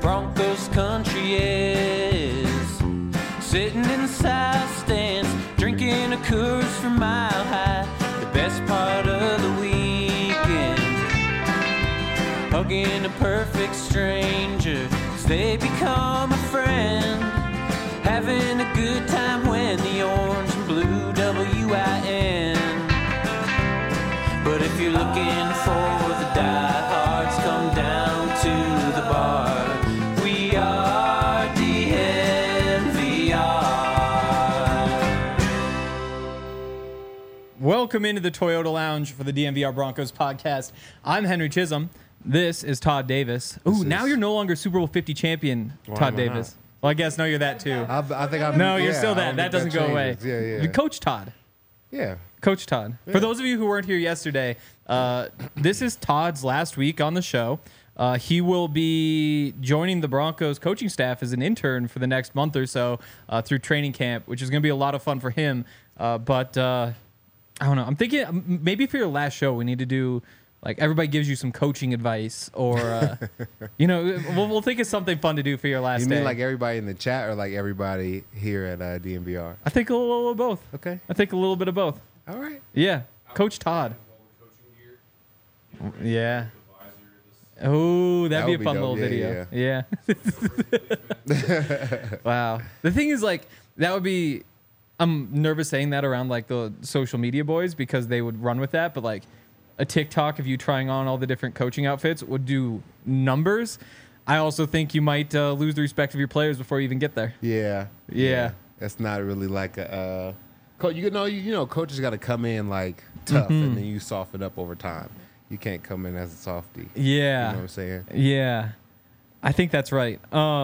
Broncos country is. Sitting in the south stands, drinking a Coors from Mile High. The best part of the weekend, hugging a perfect stranger as they become a friend. Having a good time when the orange and blue WIN. But if you're looking for the diehards, come down to the bar. We are DNVR. Welcome into the Toyota Lounge for the DNVR Broncos podcast. I'm Henry Chisholm. This is Todd Davis. Ooh, now you're no longer Super Bowl 50 champion, Todd Davis. Well, I guess no, you're that too. I think I'm. No, you're still that. That doesn't go away. Yeah. Coach Todd. Yeah. Coach Todd. Yeah. For those of you who weren't here yesterday, this is Todd's last week on the show. He will be joining the Broncos coaching staff as an intern for the next month or so through training camp, which is going to be a lot of fun for him. But I don't know. I'm thinking maybe for your last show, we need to do like everybody gives you some coaching advice, or we'll think of something fun to do for your last day. You mean like everybody in the chat, or like everybody here at DNVR? I think a little of both. Okay. I think a little bit of both. All right. Yeah. Coach Todd. Yeah. Oh, that'd be a fun little video. Yeah. Wow. The thing is, like, that would be. I'm nervous saying that around like the social media boys because they would run with that, but like a TikTok of you trying on all the different coaching outfits would do numbers. I also think you might lose the respect of your players before you even get there. Yeah. That's not really like a coach. You know, coaches got to come in like tough, and then you soften up over time. You can't come in as a softie. Yeah. You know what I'm saying? Yeah. I think that's right.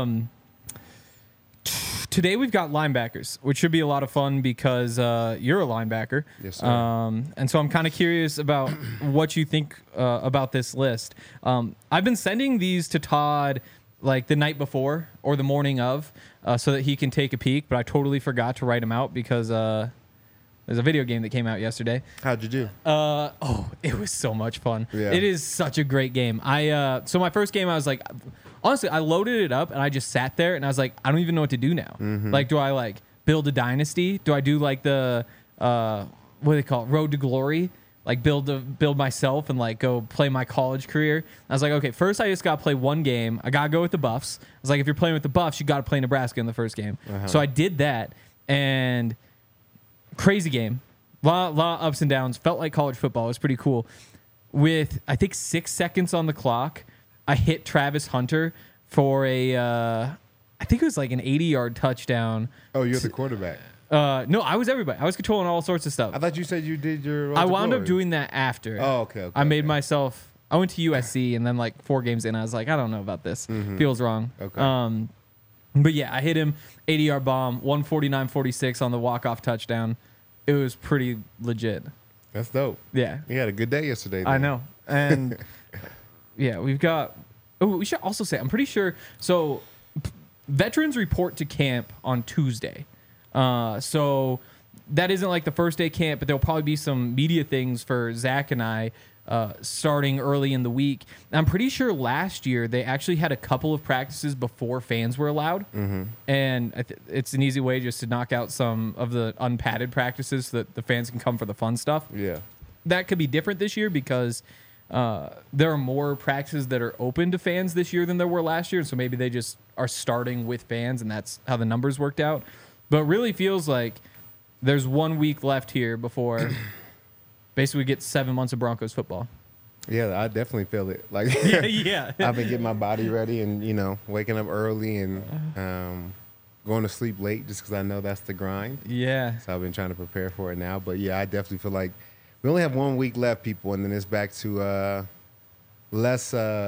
Today we've got linebackers, which should be a lot of fun because you're a linebacker. Yes, sir. And so I'm kind of curious about what you think about this list. I've been sending these to Todd like the night before or the morning of so that he can take a peek, but I totally forgot to write them out because there's a video game that came out yesterday. How'd you do? It was so much fun. Yeah. It is such a great game. So my first game, I was like, honestly, I loaded it up and I just sat there and I was like, I don't even know what to do now. Like, do I like build a dynasty? Do I do like the what do they call it, Road to Glory? Like build myself and like go play my college career. I was like, okay, first I just got to play one game. I got to go with the Buffs. I was like, if you're playing with the Buffs, you got to play Nebraska in the first game. So I did that, and crazy game. Lot of ups and downs. Felt like college football. It was pretty cool. With, I think, 6 seconds on the clock, I hit Travis Hunter for I think it was like an 80-yard touchdown. Oh, you're the quarterback. No, I was everybody. I was controlling all sorts of stuff. I thought you said you did your Road I to wound Glory. up doing that after. Oh, okay. I made myself. I went to USC, and then like 4 games in, I was like, I don't know about this. Feels wrong. Okay. But yeah, I hit him 80-yard bomb, 149-46 on the walk-off touchdown. It was pretty legit. That's dope. Yeah. You had a good day yesterday. I know. And yeah, we've got. Oh, we should also say, I'm pretty sure. So veterans report to camp on Tuesday. So that isn't like the first day camp, but there'll probably be some media things for Zach and I starting early in the week. And I'm pretty sure last year they actually had a couple of practices before fans were allowed. And it's an easy way just to knock out some of the unpadded practices so that the fans can come for the fun stuff. Yeah. That could be different this year because there are more practices that are open to fans this year than there were last year. So maybe they just are starting with fans, and that's how the numbers worked out. But it really feels like there's 1 week left here before basically we get 7 months of Broncos football. Yeah, I definitely feel it. Like, Yeah. I've been getting my body ready and, waking up early and going to sleep late just because I know that's the grind. Yeah. So I've been trying to prepare for it now. But, yeah, I definitely feel like we only have 1 week left, people, and then it's back to less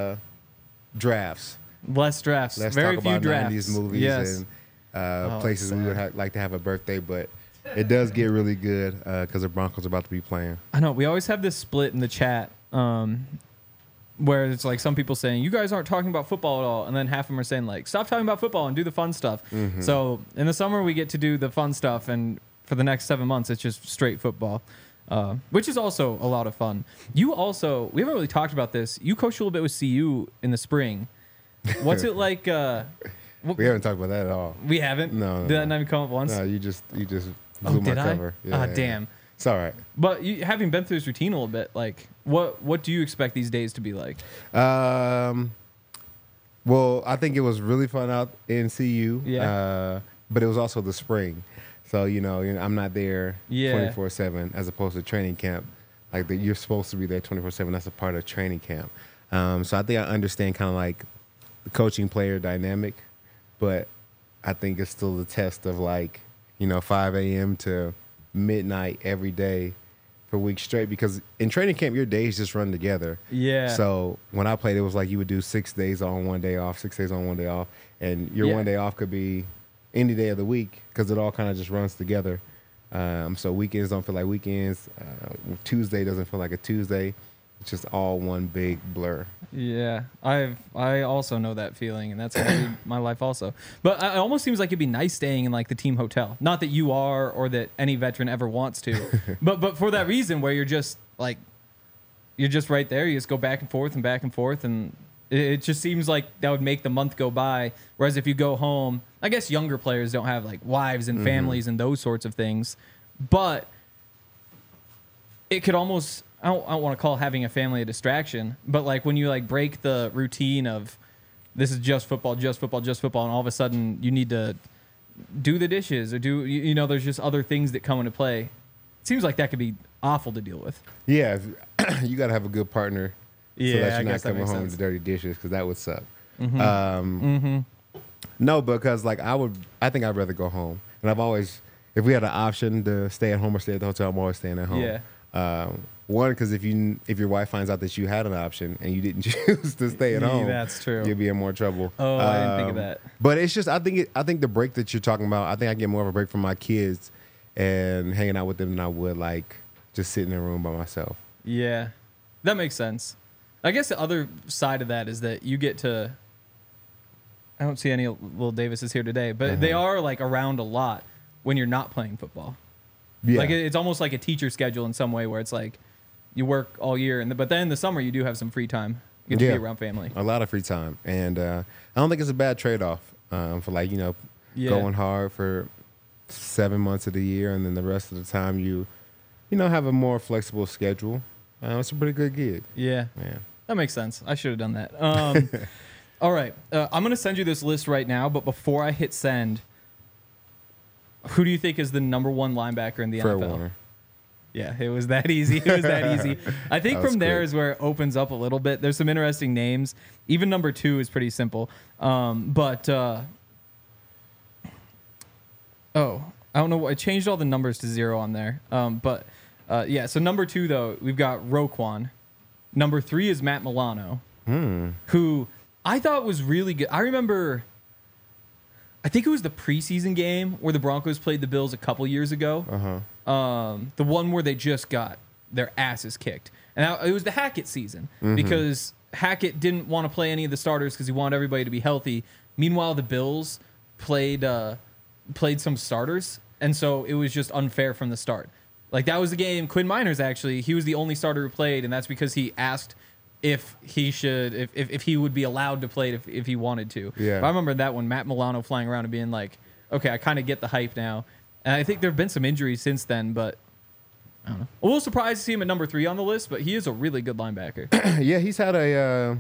drafts. Less drafts. Let's Very talk few about drafts. 90s movies Yes. and places we would like to have a birthday. But it does get really good because the Broncos are about to be playing. I know. We always have this split in the chat where it's like some people saying, you guys aren't talking about football at all. And then half of them are saying, like, stop talking about football and do the fun stuff. So in the summer, we get to do the fun stuff. And for the next 7 months, it's just straight football, which is also a lot of fun. You also, we haven't really talked about this. You coached a little bit with CU in the spring. What's it like? We haven't talked about that at all. We haven't. No. Did that not even come up once? No, you just blew Oh, my did I? cover. Yeah, Damn. It's all right. But having been through this routine a little bit, like, what do you expect these days to be like? Well, I think it was really fun out in CU. Yeah. But it was also the spring. So, I'm not there Yeah. 24/7 as opposed to training camp. Like, you're supposed to be there 24/7. That's a part of training camp. So I think I understand kind of like the coaching player dynamic, but I think it's still the test of 5 a.m. to midnight every day for weeks straight, because in training camp, your days just run together. Yeah. So when I played, it was like you would do 6 days on, 1 day off, 6 days on, 1 day off. And your 1 day off could be any day of the week because it all kind of just runs together. So weekends don't feel like weekends. Tuesday doesn't feel like a Tuesday. It's just all one big blur. Yeah, I also know that feeling, and that's gonna be my life also. But it almost seems like it'd be nice staying in like the team hotel. Not that you are, or that any veteran ever wants to, but for that reason where you're just right there. You just go back and forth, and it just seems like that would make the month go by. Whereas if you go home, I guess younger players don't have like wives and families and those sorts of things, but it could almost. I don't want to call having a family a distraction, but like when you like break the routine of this is just football, and all of a sudden you need to do the dishes or there's just other things that come into play. It seems like that could be awful to deal with. Yeah, you got to have a good partner so that I you're not guess that coming makes home sense. to dirty dishes, because that would suck. No, because I think I'd rather go home. And I've always, if we had an option to stay at home or stay at the hotel, I'm always staying at home. Yeah. One, because if your wife finds out that you had an option and you didn't choose to stay at home, that's true. You'll be in more trouble. Oh, I didn't think of that. But it's just I think the break that you're talking about, I think I get more of a break from my kids and hanging out with them than I would like just sitting in a room by myself. Yeah, that makes sense. I guess the other side of that is that you get to. I don't see any little Davises here today, but they are like around a lot when you're not playing football. Yeah. Like it's almost like a teacher schedule in some way, where it's like you work all year, but then in the summer you do have some free time. You get to be around family. A lot of free time, and I don't think it's a bad trade-off for going hard for 7 months of the year, and then the rest of the time you have a more flexible schedule. It's a pretty good gig. Yeah, that makes sense. I should have done that. All right, I'm gonna send you this list right now, but before I hit send, who do you think is the number one linebacker in the Fred NFL? Warner. Yeah, it was that easy. I think from there is where it opens up a little bit. There's some interesting names. Even number 2 is pretty simple. I don't know. I changed all the numbers to 0 on there. So number 2, though, we've got Roquan. Number 3 is Matt Milano, who I thought was really good. I remember, I think it was the preseason game where the Broncos played the Bills a couple years ago. The one where they just got their asses kicked. And it was the Hackett season because Hackett didn't want to play any of the starters because he wanted everybody to be healthy. Meanwhile, the Bills played some starters, and so it was just unfair from the start. Like, that was the game. Quinn Miners, actually, he was the only starter who played, and that's because he asked if he would be allowed to play if he wanted to. Yeah. But I remember that one, Matt Milano flying around and being like, okay, I kind of get the hype now. And I think there have been some injuries since then, but I don't know. A little surprised to see him at number 3 on the list, but he is a really good linebacker. Yeah, he's had a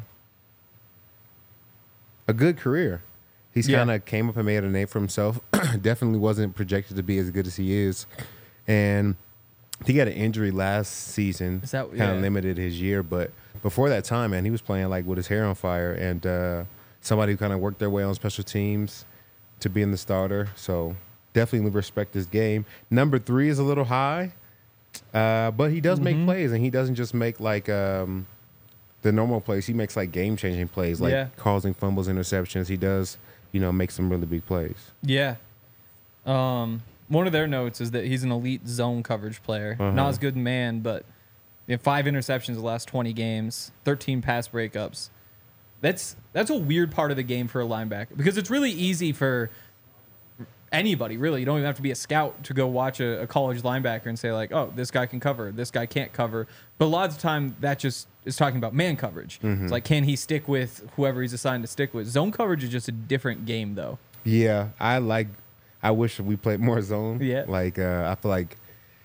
good career. He's kind of came up and made a name for himself. Definitely wasn't projected to be as good as he is. And he got an injury last season. Kind of limited his year, but before that time, man, he was playing like with his hair on fire, and somebody who kind of worked their way on special teams to being the starter. So definitely respect his game. Number 3 is a little high, but he does make plays, and he doesn't just make like the normal plays. He makes like game-changing plays, like causing fumbles, interceptions. He does, make some really big plays. Yeah. One of their notes is that he's an elite zone coverage player. Not as good in man, but 5 interceptions the last 20 games, 13 pass breakups. That's a weird part of the game for a linebacker, because it's really easy for anybody really. You don't even have to be a scout to go watch a college linebacker and say like, oh, this guy can cover, this guy can't cover. But a lot of the time that just is talking about man coverage. It's like, can he stick with whoever he's assigned to stick with? Zone coverage is just a different game though. Yeah, I wish we played more zone. Yeah. Like I feel like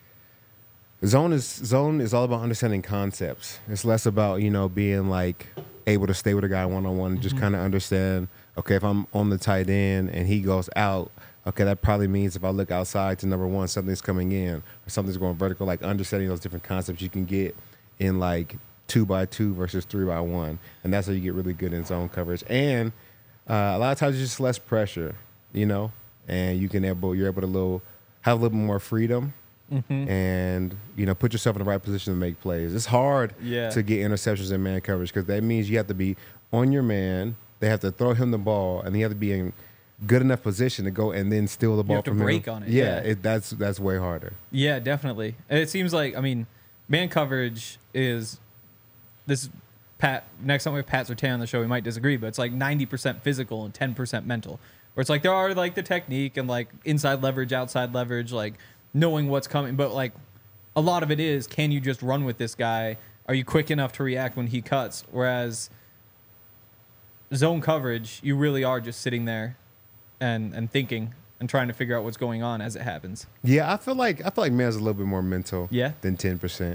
zone is all about understanding concepts. It's less about, being like able to stay with a guy one-on-one, just kind of understand, okay, if I'm on the tight end and he goes out, okay, that probably means if I look outside to number one, something's coming in or something's going vertical, like understanding those different concepts you can get in like 2x2 versus 3x1. And that's how you get really good in zone coverage. And a lot of times it's just less pressure, and you're able to have a little more freedom. And put yourself in the right position to make plays. It's hard to get interceptions in man coverage because that means you have to be on your man. They have to throw him the ball, and you have to be in good enough position to go and then steal the ball from him. You have to break on it. Yeah, that's way harder. Yeah, definitely. It seems like man coverage is this. Pat, next time we have Pat Surtain on the show, we might disagree, but it's like 90% physical and 10% mental. Where it's like there are like the technique and like inside leverage, outside leverage, like knowing what's coming, but like a lot of it is, can you just run with this guy? Are you quick enough to react when he cuts? Whereas zone coverage, you really are just sitting there and thinking and trying to figure out what's going on as it happens. Yeah, I feel like man's a little bit more mental than 10%.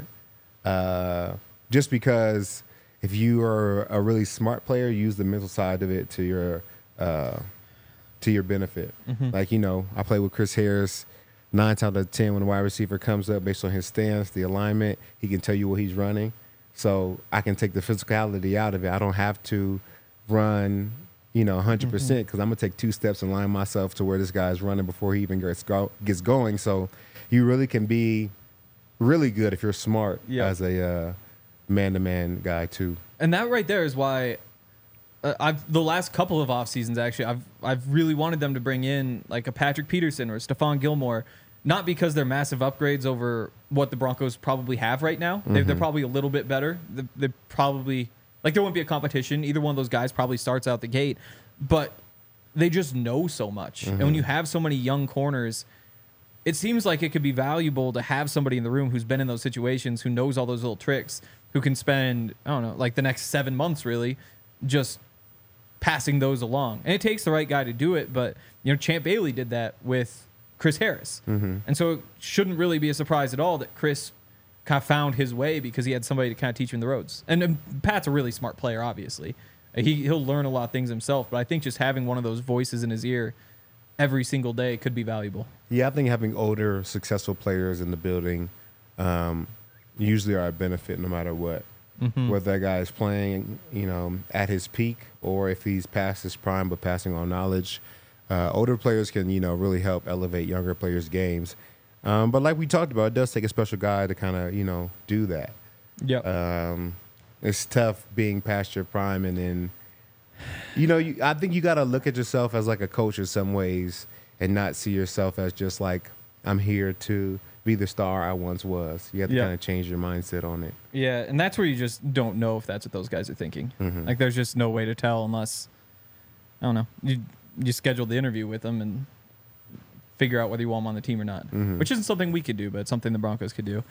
Just because if you are a really smart player, use the mental side of it to your benefit. Like, I play with Chris Harris. 9 times out of 10, when the wide receiver comes up based on his stance, the alignment, he can tell you what he's running. So I can take the physicality out of it. I don't have to run, 100% because I'm going to take 2 steps and line myself to where this guy's running before he even gets going. So you really can be really good if you're smart as a man-to-man guy too. And that right there is why the last couple of off seasons actually I've really wanted them to bring in like a Patrick Peterson or a Stephon Gilmore, not because they're massive upgrades over what the Broncos probably have right now. They're probably a little bit better. They probably like there won't be a competition. Either one of those guys probably starts out the gate, but they just know so much. And when you have so many young corners, it seems like it could be valuable to have somebody in the room who's been in those situations, who knows all those little tricks, who can spend, I don't know, like the next 7 months really just passing those along. And it takes the right guy to do it, but Champ Bailey did that with Chris Harris. And so it shouldn't really be a surprise at all that Chris kind of found his way because he had somebody to kind of teach him the ropes. And Pat's a really smart player, obviously. He'll learn a lot of things himself, but I think just having one of those voices in his ear every single day could be valuable. Yeah, I think having older, successful players in the building usually are a benefit no matter what. Whether that guy is playing, at his peak or if he's past his prime but passing on knowledge. Older players can, really help elevate younger players' games. But like we talked about, it does take a special guy to kind of, do that. Yeah. It's tough being past your prime and then, I think you got to look at yourself as like a coach in some ways and not see yourself as just like, I'm here to be the star I once was. You have to kind of change your mindset on it. Yeah, and that's where you just don't know if that's what those guys are thinking. Like, there's just no way to tell unless, I don't know, you schedule the interview with them and figure out whether you want them on the team or not, which isn't something we could do, but it's something the Broncos could do.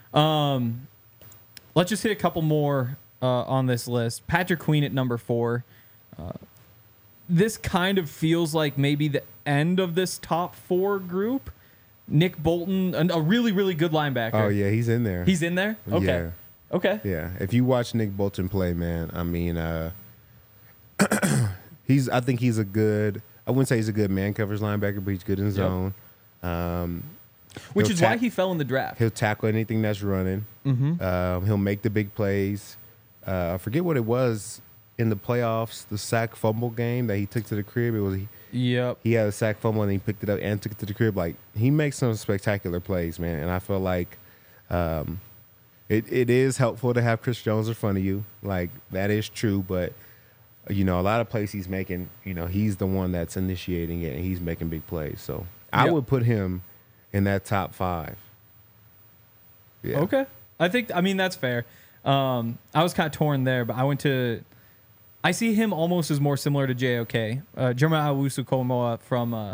Let's just hit a couple more on this list. Patrick Queen at number 4. This kind of feels like maybe the end of this top 4 group. Nick Bolton, a really, really good linebacker. Oh, yeah, he's in there. He's in there? Okay. Yeah. Okay. Yeah. If you watch Nick Bolton play, man, I mean, I think he's a good, I wouldn't say he's a good man coverage linebacker, but he's good in zone. Which is why he fell in the draft. He'll tackle anything that's running. He'll make the big plays. I forget what it was in the playoffs, the sack fumble game that he took to the crib. It was he had a sack fumble and he picked it up and took it to the crib. Like, he makes some spectacular plays, man. And I feel like it is helpful to have Chris Jones in front of you. Like, that is true, but a lot of plays he's making, he's the one that's initiating it and he's making big plays. So I would put him in that top 5. Yeah. Okay. I mean, that's fair. I was kind of torn there, but I see him almost as more similar to JOK. Jeremiah Owusu-Koramoah from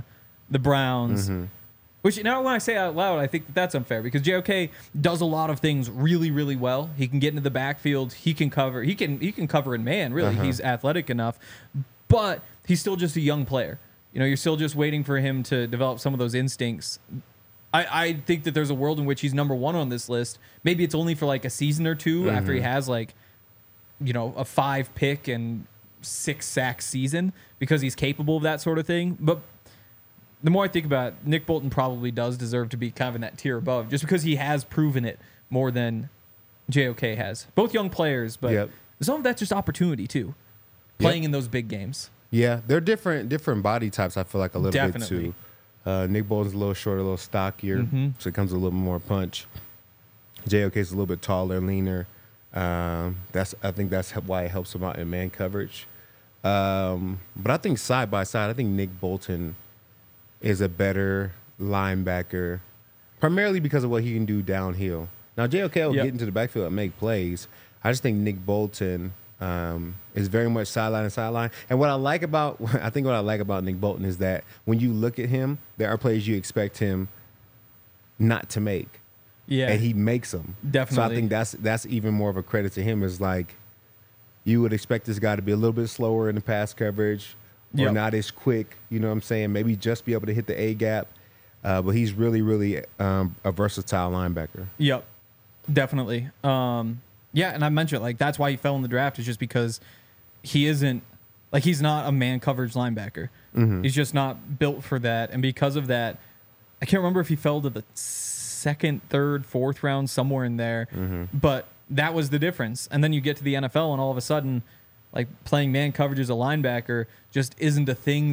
the Browns. Which now when I say it out loud, I think that's unfair because JOK does a lot of things really, really well. He can get into the backfield. He can cover. He can cover in man. Really, he's athletic enough, but he's still just a young player. You know, you're still just waiting for him to develop some of those instincts. I think that there's a world in which he's number one on this list. Maybe it's only for like a season or two after he has like, you know, a 5 pick and 6 sack season because he's capable of that sort of thing. But the more I think about it, Nick Bolton probably does deserve to be kind of in that tier above just because he has proven it more than JOK has. Both young players, but some of that's just opportunity too, playing in those big games. Yeah, they're different body types, I feel like a little bit too. Nick Bolton's a little shorter, a little stockier, so it comes with a little more punch. JOK's a little bit taller, leaner. I think that's why it helps him out in man coverage. But I think side by side, I think Nick Bolton is a better linebacker, primarily because of what he can do downhill. Now, JOK will get into the backfield and make plays. I just think Nick Bolton is very much sideline to sideline. And what I like about Nick Bolton is that when you look at him, there are plays you expect him not to make. Yeah. And he makes them. Definitely. So I think that's even more of a credit to him is like you would expect this guy to be a little bit slower in the pass coverage, or not as quick, you know what I'm saying? Maybe just be able to hit the A gap. But he's really, really a versatile linebacker. Yep, definitely. Yeah, and I mentioned like that's why he fell in the draft is just because he isn't like he's not a man coverage linebacker. He's just not built for that, and because of that, I can't remember if he fell to the 2nd, 3rd, 4th round somewhere in there, but that was the difference. And then you get to the NFL, and all of a sudden, like playing man coverage as a linebacker just isn't a thing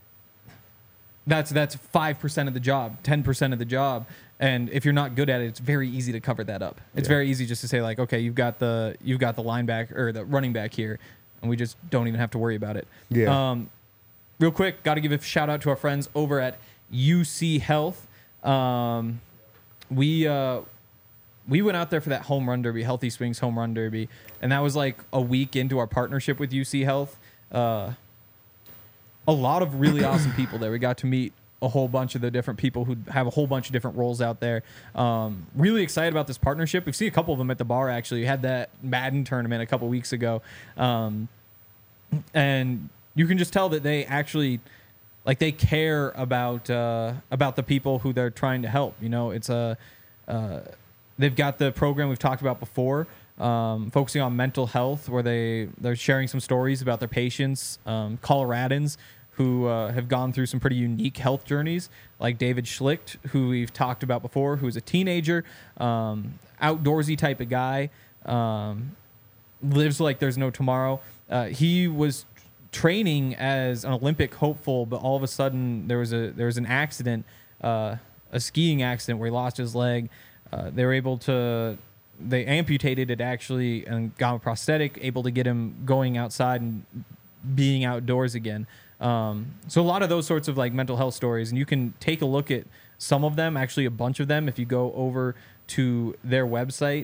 that's 5% of the job, 10% of the job. And if you're not good at it, it's very easy to cover that up. It's very easy just to say like, okay, you've got the linebacker or the running back here, and we just don't even have to worry about it. Yeah. Real quick, got to give a shout out to our friends over at UC Health. We went out there for that home run derby, Healthy Swings home run derby, and that was like a week into our partnership with UC Health. A lot of really awesome people there. We got to meet a whole bunch of the different people who have a whole bunch of different roles out there. Really excited about this partnership. We've seen a couple of them at the bar, actually. We had that Madden tournament a couple weeks ago. And you can just tell that they actually, like, they care about the people who they're trying to help. You know, it's they've got the program we've talked about before, focusing on mental health, where they're sharing some stories about their patients, Coloradans who have gone through some pretty unique health journeys, like David Schlicht, who we've talked about before, who's a teenager, outdoorsy type of guy, lives like there's no tomorrow. He was training as an Olympic hopeful, but all of a sudden there was an accident, a skiing accident where he lost his leg. They amputated it actually and got a prosthetic, able to get him going outside and being outdoors again. So a lot of those sorts of like mental health stories, and you can take a look at some of them, actually a bunch of them, if you go over to their website,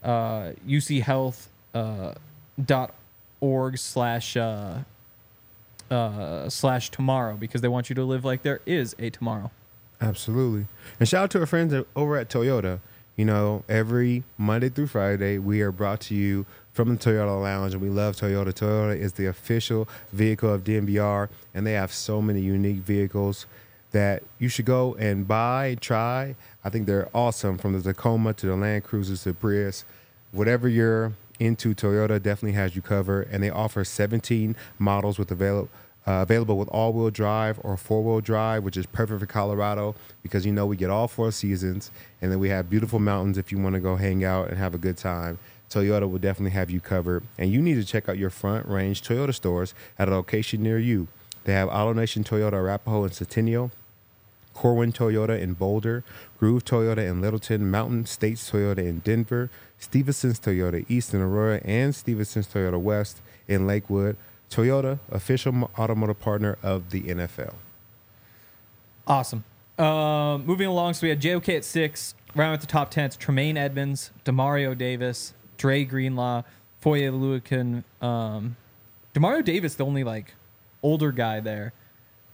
uchealth.org/tomorrow, because they want you to live like there is a tomorrow. Absolutely. And shout out to our friends over at Toyota. You know, every Monday through Friday, we are brought to you from the Toyota Lounge, and we love Toyota. Toyota is the official vehicle of DNVR, and they have so many unique vehicles that you should go and buy, try. I think they're awesome, from the Tacoma to the Land Cruisers to Prius. Whatever you're into, Toyota definitely has you covered, and they offer 17 models with available with all-wheel drive or four-wheel drive, which is perfect for Colorado because, you know, we get all 4 seasons, and then we have beautiful mountains if you want to go hang out and have a good time. Toyota will definitely have you covered, and you need to check out your Front Range Toyota stores at a location near you. They have AutoNation Toyota Arapahoe in Centennial, Corwin Toyota in Boulder, Groove Toyota in Littleton, Mountain States Toyota in Denver, Stevenson's Toyota East in Aurora, and Stevenson's Toyota West in Lakewood. Toyota, official automotive partner of the NFL. Awesome. Moving along, so we had JOK at 6. Round at the top 10, it's Tremaine Edmonds, Demario Davis, Dre Greenlaw, Foye Oluokun. Demario Davis, the only like older guy there.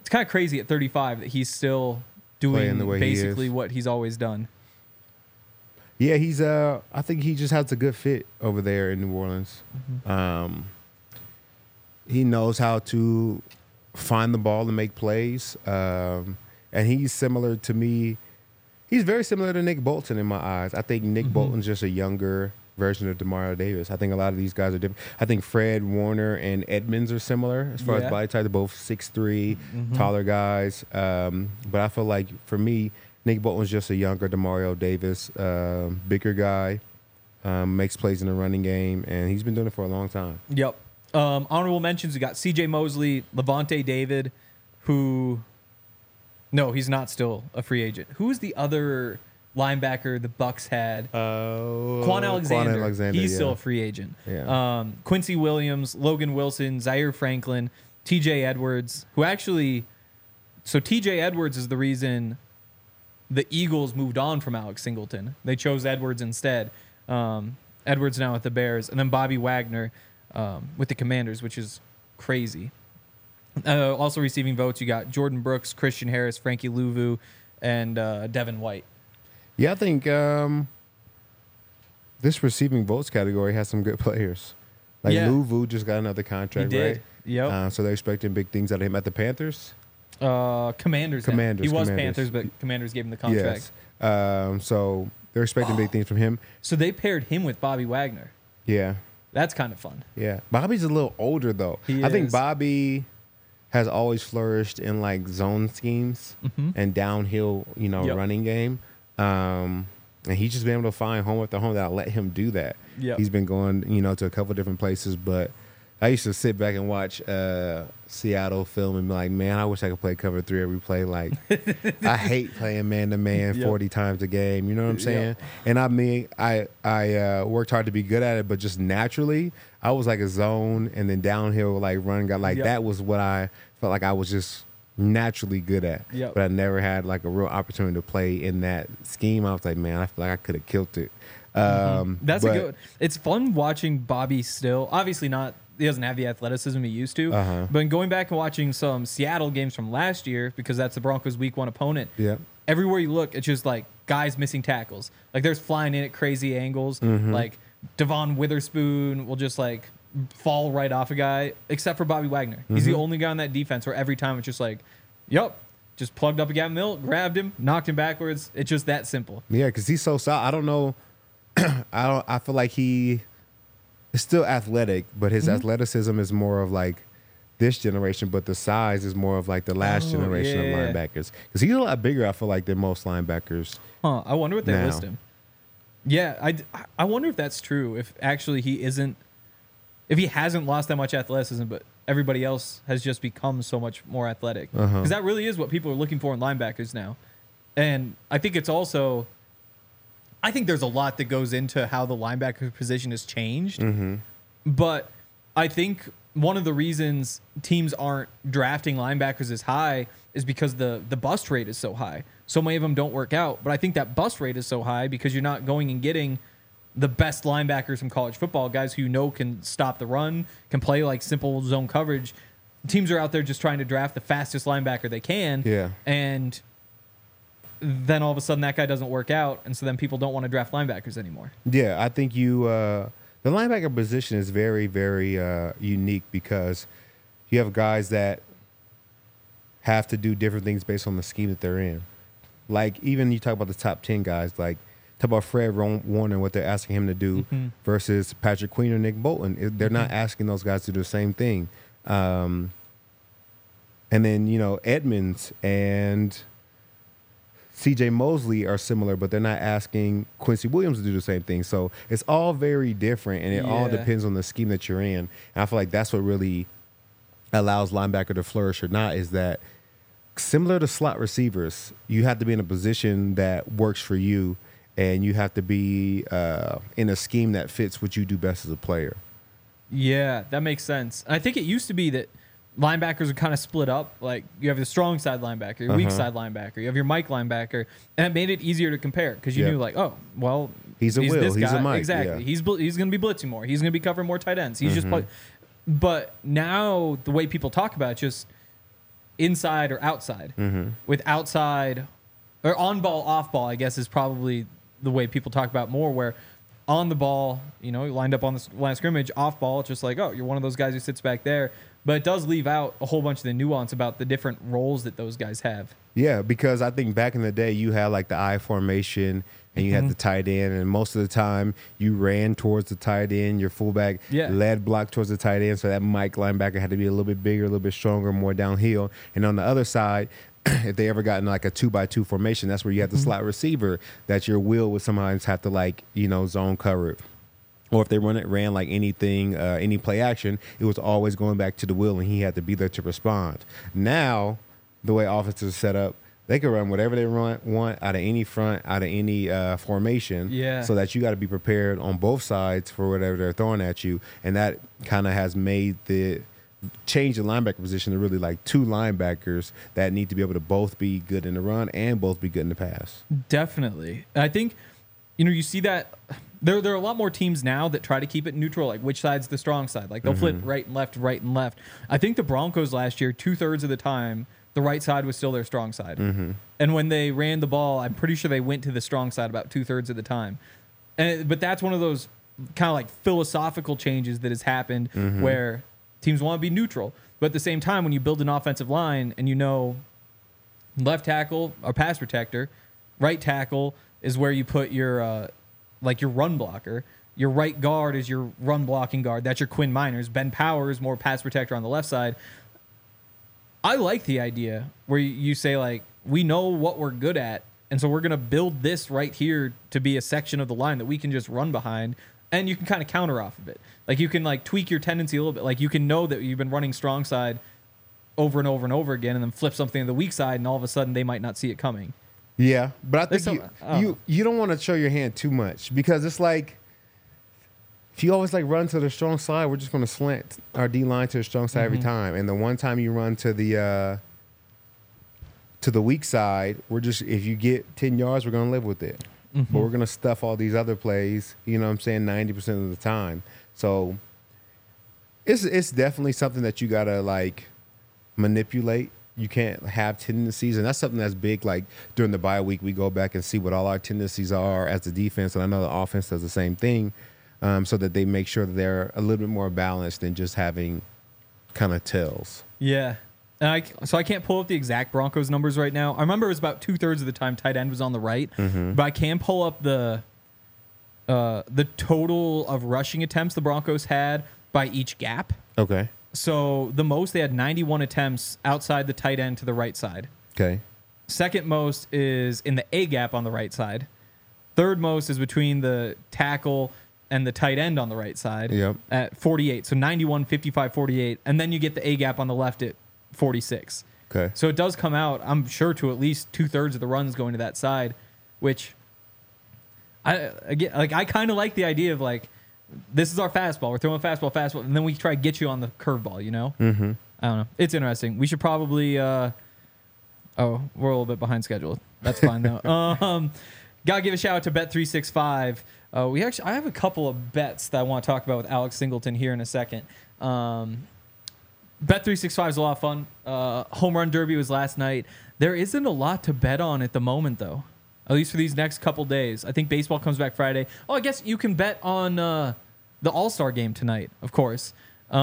kind of crazy at 35 that he's still doing basically what he's always done. Yeah, he's I think he just has a good fit over there in New Orleans. Mm-hmm. He knows how to find the ball and make plays. And he's similar to me. He's very similar to Nick Bolton in my eyes. I think Nick Bolton's just a younger version of Demario Davis. I think a lot of these guys are different. I think Fred Warner and Edmonds are similar as far as body type. They're both 6'3", taller guys. But I feel like for me, Nick Bolton's just a younger Demario Davis, bigger guy, makes plays in the running game, and he's been doing it for a long time. Yep. Honorable mentions, we got C.J. Mosley, Levante David, who... No, he's not still a free agent. Who is the other linebacker the Bucs had? Quan Alexander. He's still a free agent. Yeah. Quincy Williams, Logan Wilson, Zaire Franklin, T.J. Edwards, who actually... So T.J. Edwards is the reason the Eagles moved on from Alex Singleton. They chose Edwards instead. Edwards now with the Bears. And then Bobby Wagner with the Commanders, which is crazy. Also receiving votes, you got Jordan Brooks, Christian Harris, Frankie Louvu, and Devin White. Yeah, I think this receiving votes category has some good players. Like Louvu just got another contract, right? Yep. So they're expecting big things out of him at the Panthers. Commanders. He was Panthers, but Commanders gave him the contract. Yes. So they're expecting big things from him. So they paired him with Bobby Wagner. Yeah. That's kind of fun. Yeah. Bobby's a little older, though. I think Bobby has always flourished in like zone schemes and downhill, running game. And he's just been able to find home after home that'll let him do that. Yep. He's been going, to a couple different places, but I used to sit back and watch Seattle film and be like, man, I wish I could play cover 3 every play. Like, I hate playing man-to-man 40 times a game. You know what I'm saying? And I worked hard to be good at it, but just naturally, I was like a zone and then downhill, like run guy. Like, that was what I felt like I was just naturally good at. Yep. But I never had like a real opportunity to play in that scheme. I was like, man, I feel like I could have killed it. That's a good. It's fun watching Bobby still. Obviously not. He doesn't have the athleticism he used to. But going back and watching some Seattle games from last year, because that's the Broncos' Week 1 opponent. Yeah. Everywhere you look, it's just like guys missing tackles. Like there's flying in at crazy angles. Like Devon Witherspoon will just like fall right off a guy, except for Bobby Wagner. He's the only guy on that defense where every time it's just like, just plugged up a guy in the middle, grabbed him, knocked him backwards. It's just that simple. Yeah, because he's so solid. I don't know. I feel like he is still athletic, but his athleticism is more of like this generation, but the size is more of like the last generation of linebackers. Because he's a lot bigger, I feel like, than most linebackers. I wonder what they list him. Yeah, I wonder if that's true. If actually if he hasn't lost that much athleticism, but everybody else has just become so much more athletic. Because that really is what people are looking for in linebackers now. And I think it's also... I think there's a lot that goes into how the linebacker position has changed. But I think one of the reasons teams aren't drafting linebackers as high is because the bust rate is so high. So many of them don't work out. But I think that bust rate is so high because you're not going and getting the best linebackers from college football, guys who can stop the run, can play like simple zone coverage. Teams are out there just trying to draft the fastest linebacker they can. Yeah. And then all of a sudden that guy doesn't work out, and so then people don't want to draft linebackers anymore. Yeah, I think the linebacker position is very, very unique because you have guys that have to do different things based on the scheme that they're in. Like, even you talk about the top 10 guys, like, talk about Fred Warner, what they're asking him to do versus Patrick Queen or Nick Bolton. They're not asking those guys to do the same thing. And then, Edmonds and C.J. Mosley are similar, but they're not asking Quincy Williams to do the same thing. So it's all very different, and it all depends on the scheme that you're in. And I feel like that's what really allows linebacker to flourish or not, is that similar to slot receivers, you have to be in a position that works for you, and you have to be in a scheme that fits what you do best as a player. Yeah, that makes sense. I think it used to be that linebackers are kind of split up. Like, you have the strong side linebacker, your weak side linebacker, you have your Mike linebacker, and it made it easier to compare because you knew, like, oh, well, he's a Will, he's a Mike. Exactly. Yeah. He's going to be blitzing more. He's going to be covering more tight ends. He's just but now the way people talk about it, inside or outside. With outside or on ball, off ball, I guess is probably the way people talk about more, where on the ball, you know, lined up on the line of scrimmage, off ball, it's just like, oh, you're one of those guys who sits back there. But it does leave out a whole bunch of the nuance about the different roles that those guys have. Yeah, because I think back in the day, you had like the I formation and you had the tight end, and most of the time you ran towards the tight end. Your fullback led block towards the tight end, so that Mike linebacker had to be a little bit bigger, a little bit stronger, more downhill. And on the other side, if they ever got in like a 2x2 formation, that's where you had the slot receiver that your will would sometimes have to like, you know, zone cover. Or if they ran like anything, any play action, it was always going back to the will, and he had to be there to respond. Now, the way offenses are set up, they can run whatever they want out of any front, out of any formation. Yeah. So that you got to be prepared on both sides for whatever they're throwing at you, and that kind of has made the change the linebacker position to really like two linebackers that need to be able to both be good in the run and both be good in the pass. Definitely. I think, you know, you see that there are a lot more teams now that try to keep it neutral, like which side's the strong side. Like they'll flip right and left, right and left. I think the Broncos last year, 2/3 of the time, the right side was still their strong side. And when they ran the ball, I'm pretty sure they went to the strong side about 2/3 of the time. But that's one of those kind of like philosophical changes that has happened where teams want to be neutral. But at the same time, when you build an offensive line and you know left tackle or pass protector, right tackle is where you put your like your run blocker. Your right guard is your run blocking guard. That's your Quinn Miners. Ben Powers, more pass protector on the left side. I like the idea where you say, like, we know what we're good at, and so we're going to build this right here to be a section of the line that we can just run behind, and you can kind of counter off of it. Like, you can, like, tweak your tendency a little bit. Like, you can know that you've been running strong side over and over and over again and then flip something to the weak side, and all of a sudden they might not see it coming. Yeah, but I think you don't want to show your hand too much, because it's like if you always like run to the strong side, we're just going to slant our D line to the strong side every time. And the one time you run to the weak side, we're just, if you get 10 yards, we're going to live with it. But we're going to stuff all these other plays, you know what I'm saying, 90% of the time. So it's definitely something that you got to like manipulate. You can't have tendencies, and that's something that's big. Like during the bye week, we go back and see what all our tendencies are as the defense, and I know the offense does the same thing, so that they make sure that they're a little bit more balanced than just having kind of tells. Yeah. And so I can't pull up the exact Broncos numbers right now. I remember it was about 2/3 of the time tight end was on the right, but I can pull up the total of rushing attempts the Broncos had by each gap. Okay. So the most, they had 91 attempts outside the tight end to the right side. Okay. Second most is in the A gap on the right side. Third most is between the tackle and the tight end on the right side at 48. So 91, 55, 48. And then you get the A gap on the left at 46. Okay. So it does come out, I'm sure, to at least 2/3 of the runs going to that side, which I kind of like the idea of like, this is our fastball. We're throwing fastball, and then we try to get you on the curveball, you know? I don't know. It's interesting. We should probably we're a little bit behind schedule. That's fine, though. Gotta give a shout out to Bet365. I have a couple of bets that I want to talk about with Alex Singleton here in a second. Bet365 is a lot of fun. Home Run Derby was last night. There isn't a lot to bet on at the moment, though. At least for these next couple days. I think baseball comes back Friday. Oh, I guess you can bet on the All-Star game tonight, of course.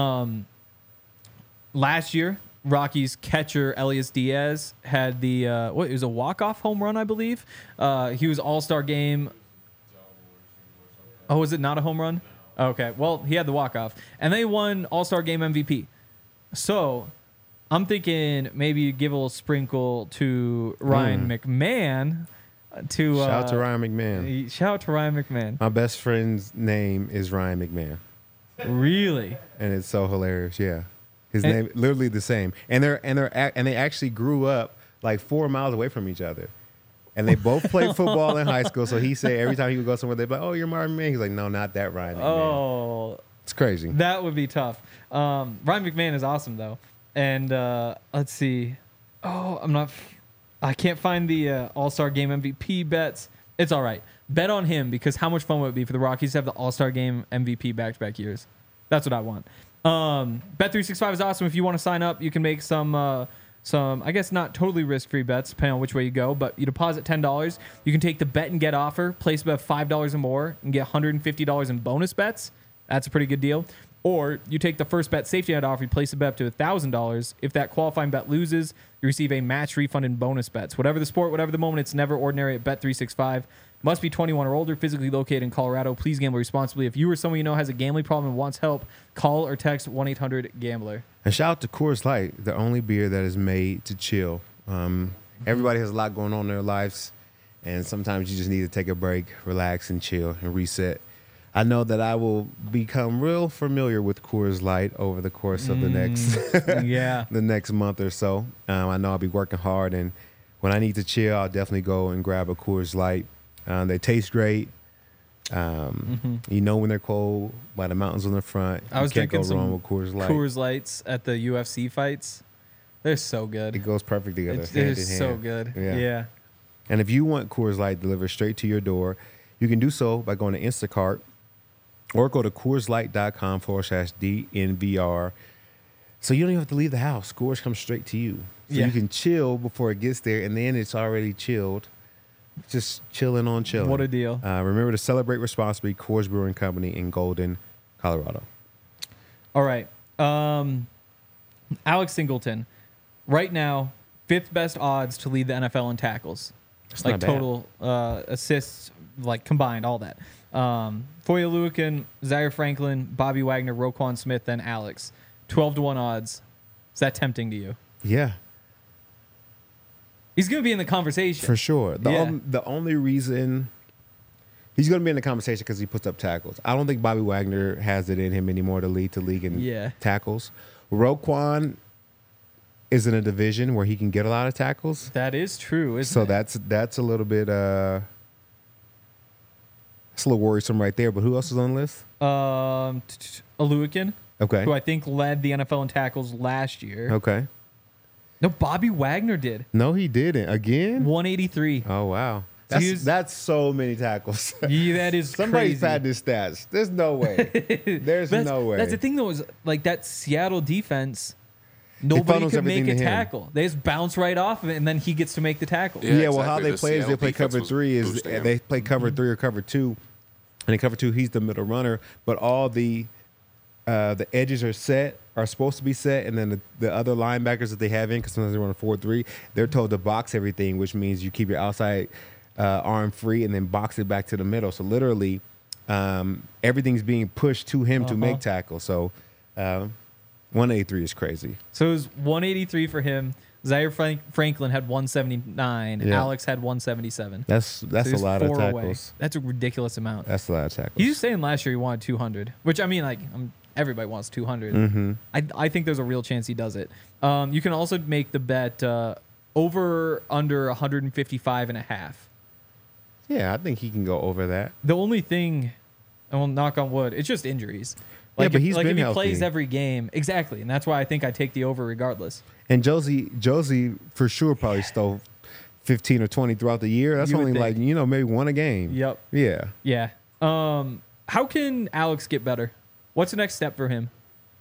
Last year, Rockies catcher Elias Diaz had the it was a walk-off home run, I believe. He was All-Star game. Oh, was it not a home run? Okay, well, he had the walk-off. And they won All-Star game MVP. So I'm thinking maybe you give a little sprinkle to Ryan McMahon. Shout out to Ryan McMahon. Shout out to Ryan McMahon. My best friend's name is Ryan McMahon. Really? And it's so hilarious. Yeah, his name literally the same. And they actually grew up like 4 miles away from each other. And they both played football in high school. So he said every time he would go somewhere, they'd be like, "Oh, you're Ryan McMahon." He's like, "No, not that Ryan McMahon." Oh, it's crazy. That would be tough. Ryan McMahon is awesome though. And let's see. Oh, I can't find the All-Star Game MVP bets. It's all right. Bet on him, because how much fun would it be for the Rockies to have the All-Star Game MVP back-to-back years? That's what I want. Bet365 is awesome. If you want to sign up, you can make some some, I guess not totally risk-free bets, depending on which way you go, but you deposit $10. You can take the bet and get offer, place about $5 or more, and get $150 in bonus bets. That's a pretty good deal. Or you take the first bet safety net offer, you place a bet up to $1,000. If that qualifying bet loses, you receive a match refund in bonus bets. Whatever the sport, whatever the moment, it's never ordinary at Bet365. Must be 21 or older, physically located in Colorado. Please gamble responsibly. If you or someone you know has a gambling problem and wants help, call or text 1-800-GAMBLER. And shout out to Coors Light, the only beer that is made to chill. Everybody has a lot going on in their lives, and sometimes you just need to take a break, relax, and chill and reset. I know that I will become real familiar with Coors Light over the course of the next month or so. I know I'll be working hard, and when I need to chill, I'll definitely go and grab a Coors Light. They taste great. You know when they're cold by the mountains on the front. I was drinking some Coors Lights at the UFC fights. They're so good. It goes perfect together. They're so good. Yeah. And if you want Coors Light delivered straight to your door, you can do so by going to Instacart or go to CoorsLight.com/DNVR. So you don't even have to leave the house. Coors comes straight to you. So you can chill before it gets there, and then it's already chilled. Just chilling on chilling. What a deal. Remember to celebrate responsibly. Coors Brewing Company in Golden, Colorado. All right. Alex Singleton. Right now, 5th best odds to lead the NFL in tackles. That's like not bad. total assists, like combined, all that. Foye Oluokun, Zaire Franklin, Bobby Wagner, Roquan Smith, then Alex. 12-1 odds. Is that tempting to you? Yeah. He's going to be in the conversation. For sure. The only reason he's going to be in the conversation because he puts up tackles. I don't think Bobby Wagner has it in him anymore to lead the league in tackles. Roquan is in a division where he can get a lot of tackles. That is true, isn't it? So that's a little bit that's a little worrisome right there. But who else is on the list? Oluokun. Okay. Who I think led the NFL in tackles last year. Okay. No, Bobby Wagner did. No, he didn't. Again? 183. Oh, wow. So That's so many tackles. Yeah, that is Somebody's crazy. had his stats. There's no way. There's no way. That's the thing, though, is like that Seattle defense, nobody could make a tackle. They just bounce right off of it, and then he gets to make the tackle. Yeah, well, how they play is they play cover 3. Is they play cover 3 or cover 2. And in cover 2, he's the middle runner. But all the edges are supposed to be set, and then the other linebackers that they have in, because sometimes they run a 4-3, they're told to box everything, which means you keep your outside arm free and then box it back to the middle. So literally, everything's being pushed to him to make tackles. So 183 is crazy. So it was 183 for him. Zaire Franklin had 179. Yeah. Alex had 177. That's So a he was lot of 4 tackles. away. That's a ridiculous amount. That's a lot of tackles. He was saying last year he wanted 200, which I mean, like, everybody wants 200. Mm-hmm. I think there's a real chance he does it. You can also make the bet over under 155 and a half. Yeah, I think he can go over that. The only thing, and we'll knock on wood, it's just injuries. Yeah, Like but he's if been he healthy. plays every game, exactly, and that's why I think I take the over regardless. And Josie for sure probably stole 15 or 20 throughout the year. That's You would only think. maybe one a game. Yep. Yeah. Yeah. How can Alex get better? What's the next step for him?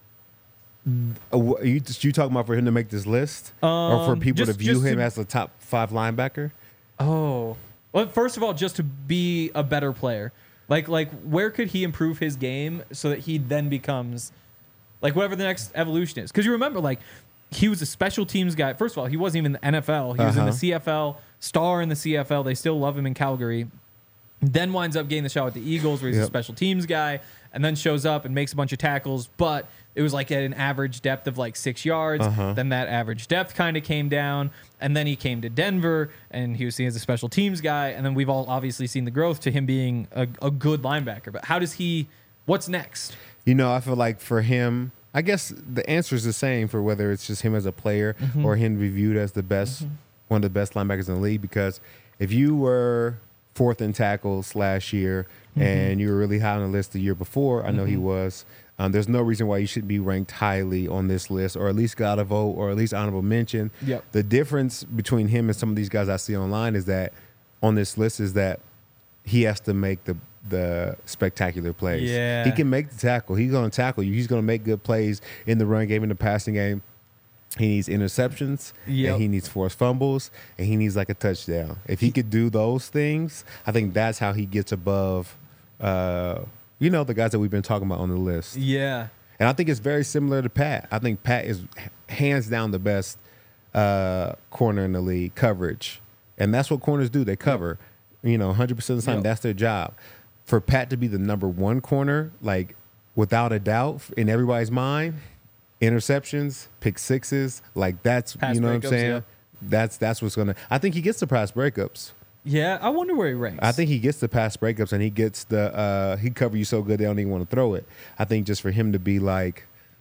You talking about for him to make this list, or for people to view him as a top 5 linebacker? Oh, well, first of all, just to be a better player. Like where could he improve his game so that he then becomes like whatever the next evolution is? Because you remember, like, he was a special teams guy. First of all, he wasn't even in the NFL. He was in the CFL, star in the CFL. They still love him in Calgary. Then winds up getting the shot with the Eagles where he's a special teams guy, and then shows up and makes a bunch of tackles. But it was like at an average depth of like 6 yards. Then that average depth kind of came down. And then he came to Denver, and he was seen as a special teams guy. And then we've all obviously seen the growth to him being a good linebacker. But how does he – what's next? I feel like for him, I guess the answer is the same for whether it's just him as a player or him to be viewed as the best, one of the best linebackers in the league. Because if you were 4th in tackles last year and you were really high on the list the year before, I know he was, there's no reason why you should be ranked highly on this list, or at least got a vote, or at least honorable mention. Yep. The difference between him and some of these guys I see online is that on this list is that he has to make the spectacular plays. Yeah. He can make the tackle. He's going to tackle you. He's going to make good plays in the run game, in the passing game. He needs interceptions, Yep. and he needs forced fumbles, and he needs like a touchdown. If he could do those things, I think that's how he gets above, the guys that we've been talking about on the list. Yeah. And I think it's very similar to Pat. I think Pat is hands down the best corner in the league, coverage. And that's what corners do. They cover. 100% of the time, that's their job. For Pat to be the number one corner, like without a doubt, in everybody's mind, interceptions, pick sixes, like that's, Pass you know what I'm breakups, saying? yeah. That's what's going to, I think he gets the pass breakups. Yeah, I wonder where he ranks. I think he gets the pass breakups, and he gets he cover you so good they don't even want to throw it. I think just for him to be like,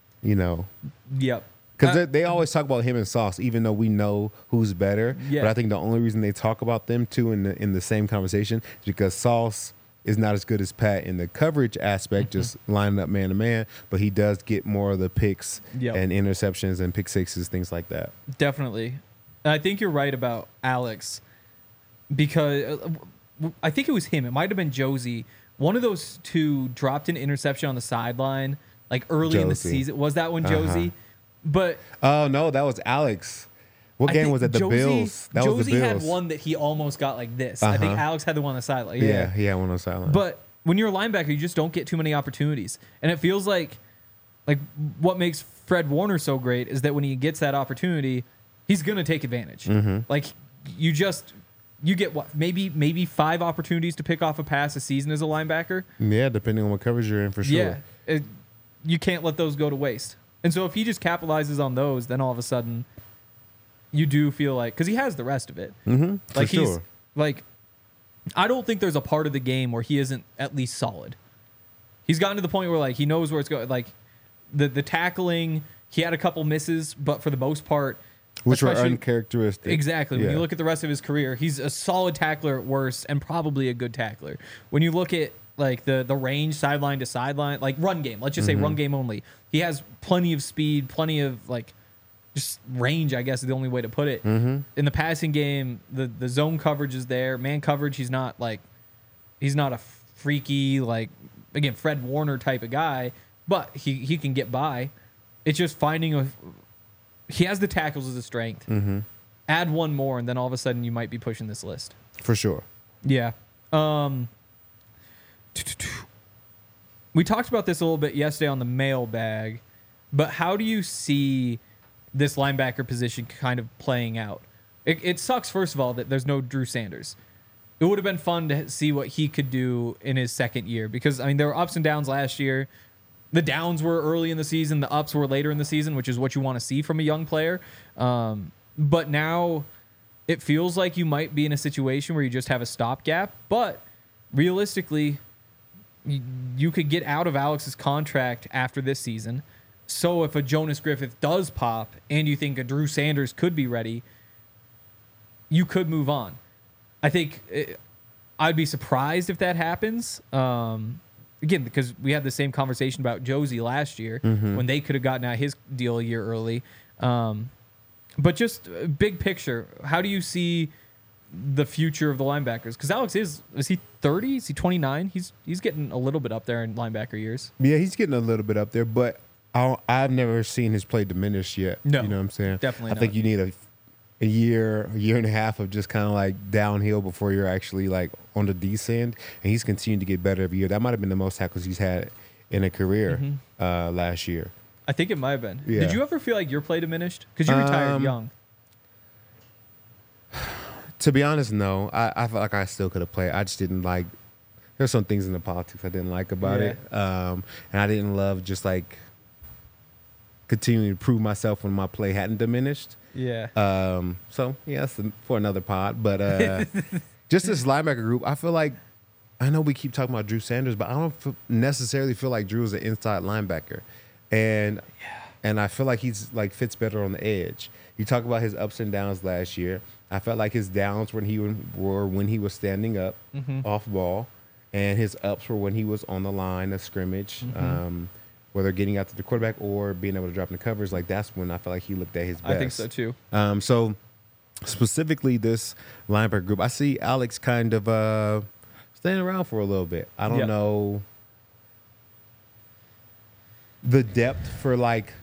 Yep. because they always talk about him and Sauce, even though we know who's better. Yeah. But I think the only reason they talk about them two in the same conversation is because Sauce is not as good as Pat in the coverage aspect, just lining up man to man. But he does get more of the picks and interceptions and pick sixes, things like that. Definitely. I think you're right about Alex, because I think it was him. It might have been Josie. One of those two dropped an interception on the sideline, like early in the season. Was that one Josie? But oh no, that was Alex. What game was it? The Bills. That was the Josie Bills. had one that he almost got like this. I think Alex had the one on the sideline. Yeah, he had one on the sideline. But when you're a linebacker, you just don't get too many opportunities, and it feels like what makes Fred Warner so great is that when he gets that opportunity, he's gonna take advantage. Like you get what, maybe 5 opportunities to pick off a pass a season as a linebacker. Yeah, depending on what coverage you're in, for sure. Yeah, you can't let those go to waste. And so if he just capitalizes on those, then all of a sudden you do feel like, because he has the rest of it. For sure. I don't think there's a part of the game where he isn't at least solid. He's gotten to the point where he knows where it's going. Like the tackling, he had a couple misses, but for the most part, which were uncharacteristic. Exactly. When you look at the rest of his career, he's a solid tackler at worst and probably a good tackler. When you look at the range sideline to sideline, like run game, let's just say run game only, he has plenty of speed, plenty of just range, I guess is the only way to put it. In the passing game, the zone coverage is there. Man coverage, he's not a freaky, again, Fred Warner type of guy, but he can get by. It's just finding he has the tackles as a strength. Add one more, and then all of a sudden you might be pushing this list. For sure. Yeah. We talked about this a little bit yesterday on the mailbag, but how do you see this linebacker position kind of playing out? It sucks, first of all, that there's no Drew Sanders. It would have been fun to see what he could do in his second year, because there were ups and downs last year. The downs were early in the season, the ups were later in the season, which is what you want to see from a young player. But now it feels like you might be in a situation where you just have a stopgap, but realistically, you could get out of Alex's contract after this season. So if a Jonas Griffith does pop and you think a Drew Sanders could be ready, you could move on. I think I'd be surprised if that happens. Again, because we had the same conversation about Josie last year when they could have gotten out his deal a year early. But just big picture, how do you see the future of the linebackers? Because Alex is he 30? Is he 29? He's getting a little bit up there in linebacker years. Yeah, he's getting a little bit up there, but I've never seen his play diminish yet. No, you know what I'm saying? Definitely not. I think you need a year and a half of just kind of downhill before you're actually on the descent. And he's continued to get better every year. That might have been the most tackles he's had in a career last year. I think it might have been. Yeah. Did you ever feel like your play diminished? Because you retired young. To be honest, no. I felt like I still could have played. I just didn't like. There's some things in the politics I didn't like about it, and I didn't love just continuing to prove myself when my play hadn't diminished. Yeah. So yeah, that's for another pod. But just this linebacker group, I feel like, I know we keep talking about Drew Sanders, but I don't necessarily feel like Drew is an inside linebacker, and I feel like he's fits better on the edge. You talk about his ups and downs last year. I felt like his downs were when he was standing up off ball, and his ups were when he was on the line of scrimmage. Whether getting out to the quarterback or being able to drop in the covers, that's when I felt like he looked at his best. I think so too. So specifically this linebacker group, I see Alex kind of staying around for a little bit. I don't know the depth for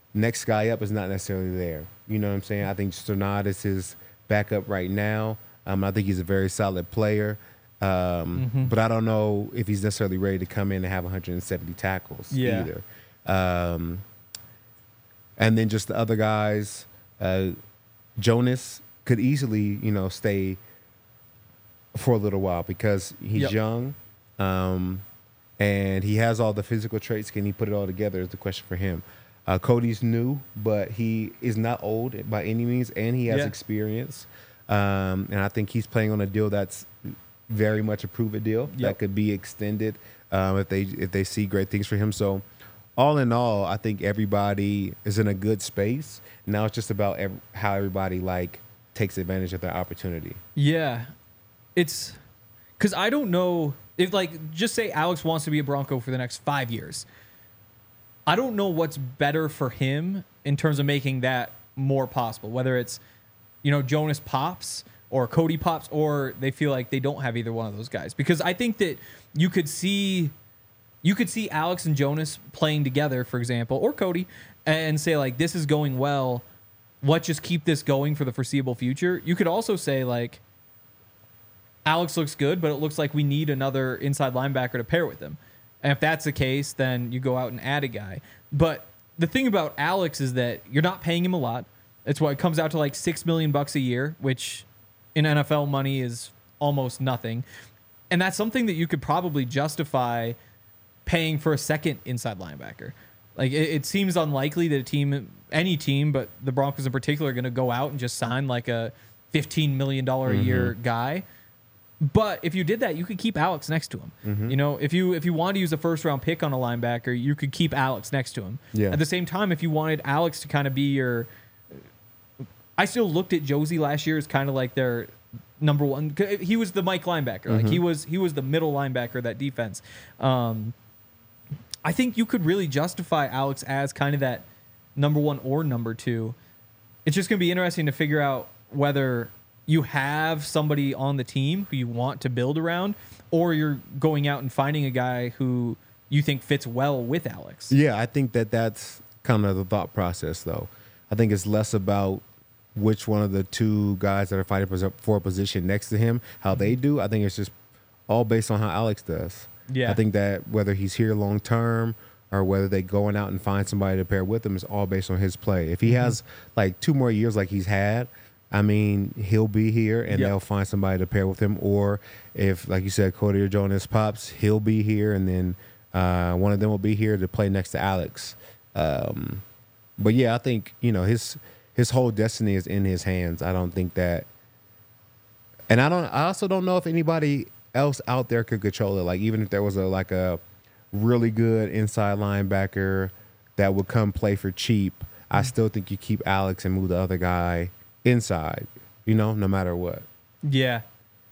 next guy up is not necessarily there. You know what I'm saying? I think Strnad is his backup right now. I think he's a very solid player. But I don't know if he's necessarily ready to come in and have 170 tackles either. And then just the other guys, Jonas could easily, stay for a little while because he's young, and he has all the physical traits. Can he put it all together is the question for him. Cody's new, but he is not old by any means, and he has experience. And I think he's playing on a deal that's very much a prove-it deal that could be extended if they see great things for him. So all in all, I think everybody is in a good space. Now it's just about how everybody takes advantage of their opportunity. Yeah. It's because I don't know if just say Alex wants to be a Bronco for the next 5 years. I don't know what's better for him in terms of making that more possible, whether it's, Jonas pops or Cody pops, or they feel like they don't have either one of those guys. Because I think that you could see Alex and Jonas playing together, for example, or Cody, and say this is going well. Let's just keep this going for the foreseeable future. You could also say Alex looks good, but it looks like we need another inside linebacker to pair with him. And if that's the case, then you go out and add a guy. But the thing about Alex is that you're not paying him a lot. It's what it comes out to $6 million a year, which in NFL money is almost nothing. And that's something that you could probably justify paying for a second inside linebacker. It seems unlikely that any team, but the Broncos in particular, are going to go out and just sign a $15 million a year guy. But if you did that, you could keep Alex next to him. If you wanted to use a first-round pick on a linebacker, you could keep Alex next to him. Yeah. At the same time, if you wanted Alex to kind of be your... I still looked at Josie last year as kind of their number one... He was the Mike linebacker. He was the middle linebacker of that defense. I think you could really justify Alex as kind of that number one or number two. It's just going to be interesting to figure out whether... you have somebody on the team who you want to build around, or you're going out and finding a guy who you think fits well with Alex. Yeah, I think that's kind of the thought process, though. I think it's less about which one of the two guys that are fighting for a position next to him, how they do. I think it's just all based on how Alex does. Yeah. I think that whether he's here long term or whether they going out and find somebody to pair with him is all based on his play. If he has 2 more years like he's had, I mean, he'll be here, and they'll find somebody to pair with him. Or if, like you said, Cody or Jonas pops, he'll be here, and then one of them will be here to play next to Alex. But yeah, I think his whole destiny is in his hands. I don't think that, and I also don't know if anybody else out there could control it. Even if there was a really good inside linebacker that would come play for cheap, I still think you keep Alex and move the other guy inside, no matter what. Yeah.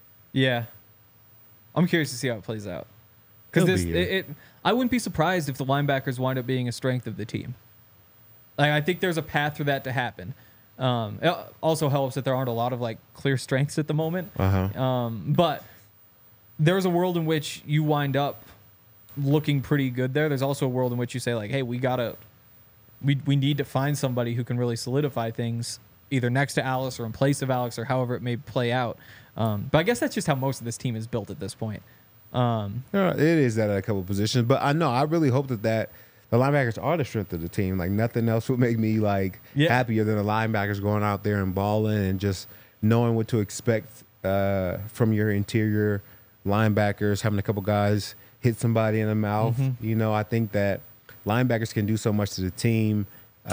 I'm curious to see how it plays out. Because I wouldn't be surprised if the linebackers wind up being a strength of the team. I think there's a path for that to happen. It also helps that there aren't a lot of clear strengths at the moment. But there's a world in which you wind up looking pretty good there. There's also a world in which you say hey, we need to find somebody who can really solidify things either next to Alex or in place of Alex or however it may play out. But I guess that's just how most of this team is built at this point. It is at a couple of positions, but I really hope that the linebackers are the strength of the team. Nothing else would make me happier than the linebackers going out there and balling and just knowing what to expect from your interior linebackers, having a couple guys hit somebody in the mouth. I think that linebackers can do so much to the team.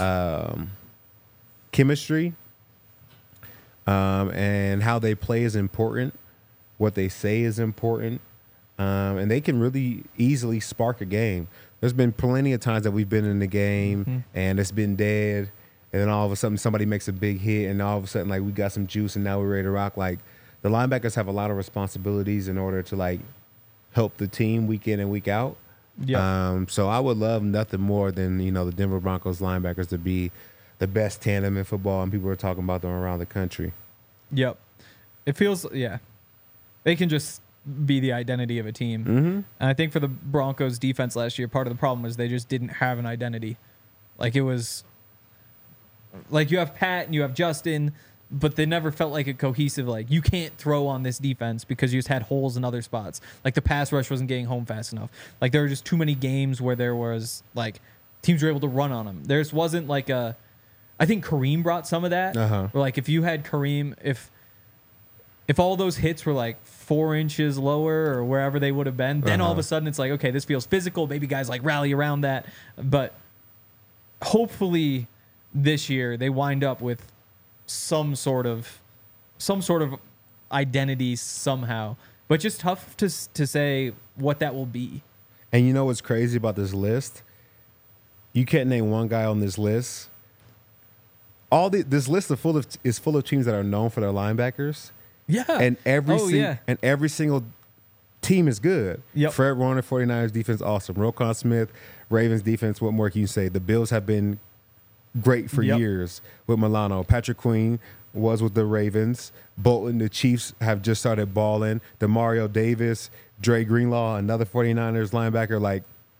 Chemistry and how they play is important. What they say is important. And they can really easily spark a game. There's been plenty of times that we've been in the game and it's been dead. And then all of a sudden somebody makes a big hit and all of a sudden we got some juice and now we're ready to rock. The linebackers have a lot of responsibilities in order to help the team week in and week out. So I would love nothing more than, the Denver Broncos linebackers to be the best tandem in football, and people are talking about them around the country. Yep. It feels, they can just be the identity of a team. And I think for the Broncos defense last year, part of the problem was they just didn't have an identity. It was Like you have Pat and you have Justin, but they never felt like a cohesive, like you can't throw on this defense because you just had holes in other spots. Like the pass rush wasn't getting home fast enough. Like there were just too many games where there was like teams were able to run on them. There just wasn't like a, I think Kareem brought some of that. Where like if you had Kareem, if all those hits were like 4 inches lower or wherever they would have been, then all of a sudden it's like, okay, this feels physical. Maybe guys like rally around that. But hopefully this year they wind up with some sort of identity somehow, but just tough to say what that will be. And you know what's crazy about this list? You can't name one guy on this list. This list is full of teams that are known for their linebackers. Yeah, and every single team is good. Yep. Fred Warner, 49ers defense, awesome. Roquan Smith, Ravens defense. What more can you say? The Bills have been great for years with Milano. Patrick Queen was with the Ravens. Bolton, the Chiefs have just started balling. DeMario Davis, Dre Greenlaw, another 49ers linebacker like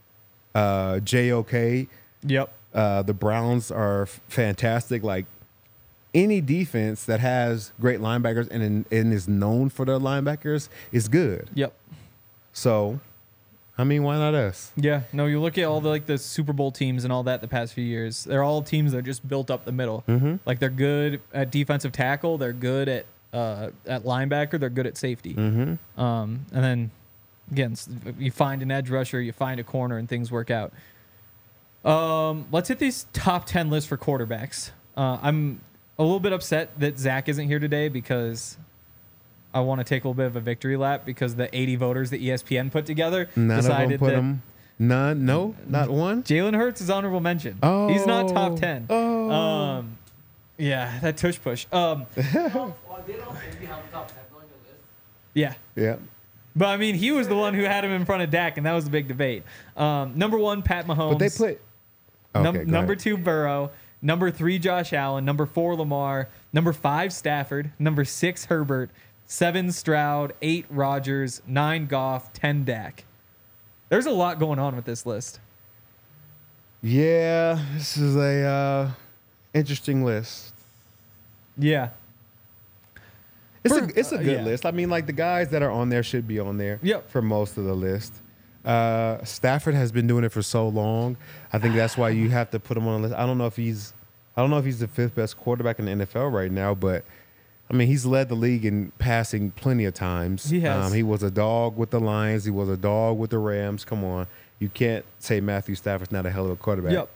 JOK. Yep. The Browns are fantastic. Like any defense that has great linebackers and is known for their linebackers is good. Yep. So, I mean, why not us? Yeah. No, you look at all the Super Bowl teams and all that the past few years. They're all teams that are just built up the middle. Mm-hmm. Like they're good at defensive tackle. They're good at linebacker. They're good at safety. Mm-hmm. And then again, you find an edge rusher, you find a corner, and things work out. Let's hit these top 10 lists for quarterbacks. I'm a little bit upset that Zach isn't here today because I want to take a little bit of a victory lap because the 80 voters that ESPN put together decided that none, no, not one. Jalen Hurts is honorable mention. Oh, he's not top 10. Oh, yeah, that tush push. Yeah. Yeah. But I mean, he was the one who had him in front of Dak, and that was the big debate. Number 1, Pat Mahomes. But they put number 2, Burrow. Number 3, Josh Allen. Number 4, Lamar. Number 5, Stafford. Number 6, Herbert. 7, Stroud. 8, Rodgers. 9, Goff. 10, Dak. There's a lot going on with this list. Yeah, this is a interesting list. Yeah. It's a good list. I mean, like the guys that are on there should be on there. Yep. For most of the list. Stafford has been doing it for so long. I think that's why you have to put him on the list. I don't know if he's the 5th best quarterback in the NFL right now, but I mean, he's led the league in passing plenty of times. He has. He was a dog with the Lions. He was a dog with the Rams. Come on. You can't say Matthew Stafford's not a hell of a quarterback. Yep.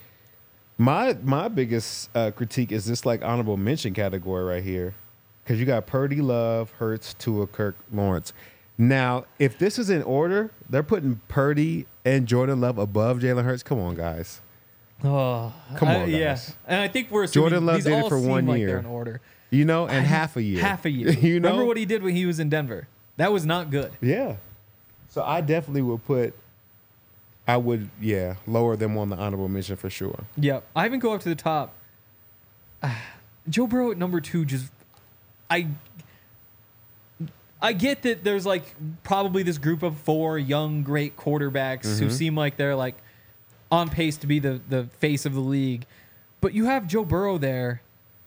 My biggest critique is this like honorable mention category right here. Because you got Purdy, Love, Hurts, Tua, Kirk, Lawrence. Now, if this is in order, they're putting Purdy and Jordan Love above Jalen Hurts. Come on, guys. Oh, come on, guys. Yeah. And I think we're assuming Jordan Love these did all it for seem 1 like year. they're in order. You know, and half a year. Half a year. You know? Remember what he did when he was in Denver? That was not good. Yeah. So I definitely would lower them on the honorable mention for sure. Yep. I even go up to the top. Joe Burrow at number 2 just... I get that there's like probably this group of 4 young, great quarterbacks who seem like they're like on pace to be the face of the league. But you have Joe Burrow there.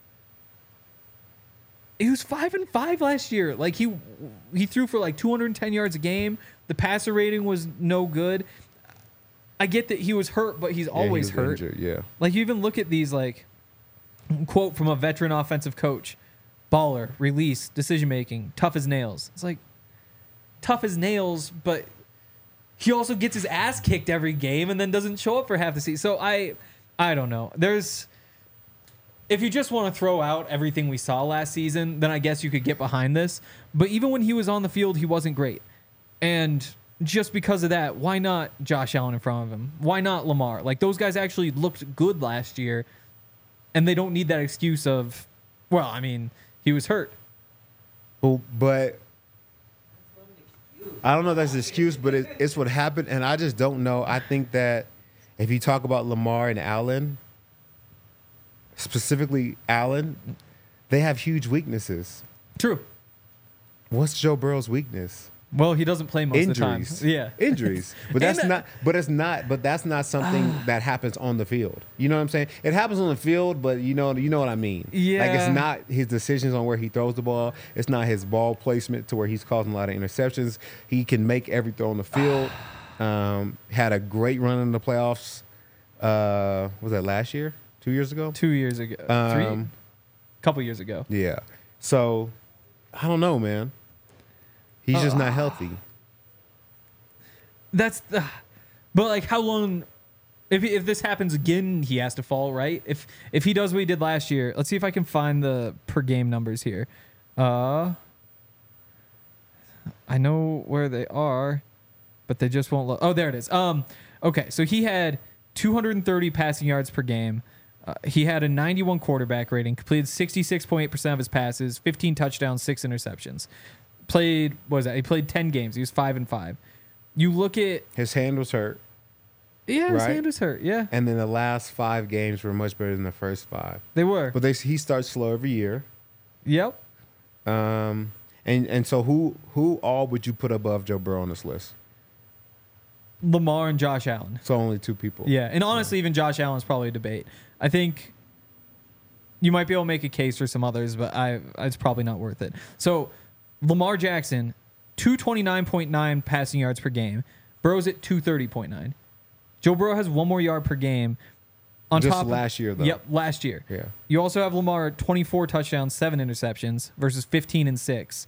He was 5-5 last year. Like he threw for like 210 yards a game. The passer rating was no good. I get that he was hurt, but he's always hurt. Injured, yeah. Like you even look at these like quote from a veteran offensive coach. Baller, release, decision-making, tough as nails. It's like, tough as nails, but he also gets his ass kicked every game and then doesn't show up for half the season. So I don't know. If you just want to throw out everything we saw last season, then I guess you could get behind this. But even when he was on the field, he wasn't great. And just because of that, why not Josh Allen in front of him? Why not Lamar? Like, those guys actually looked good last year, and they don't need that excuse of, well, I mean... He was hurt. Well, but I don't know if that's an excuse, but it's what happened, and I just don't know. I think that if you talk about Lamar and Allen, specifically Allen, they have huge weaknesses. True. What's Joe Burrow's weakness? Well, he doesn't play most of the time. Yeah, injuries. But that's not. But it's not. But that's not something that happens on the field. You know what I'm saying? It happens on the field, but you know what I mean. Yeah. Like, it's not his decisions on where he throws the ball. It's not his ball placement to where he's causing a lot of interceptions. He can make every throw on the field. Had a great run in the playoffs. Was that last year? 2 years ago? 2 years ago. Couple years ago. Yeah. So I don't know, man. He's just not healthy. But like, how long? If this happens again, he has to fall, right? If he does what he did last year, let's see if I can find the per game numbers here. I know where they are, but they just won't look. Oh, there it is. Okay, so he had 230 passing yards per game. He had a 91 quarterback rating, completed 66.8% of his passes, 15 touchdowns, 6 interceptions. Played, what was that? He played 10 games. He was 5-5. You look at... His hand was hurt. Yeah, his hand was hurt, yeah. And then the last 5 games were much better than the first 5. They were. But he starts slow every year. Yep. And so who all would you put above Joe Burrow on this list? Lamar and Josh Allen. So only 2 people. Yeah, and honestly, even Josh Allen's probably a debate. I think you might be able to make a case for some others, but it's probably not worth it. So... Lamar Jackson, 229.9 passing yards per game. Burrow's at 230.9. Joe Burrow has 1 more yard per game. On Just top last year, though. Yep, last year. Yeah. You also have Lamar at 24 touchdowns, 7 interceptions versus 15 and 6.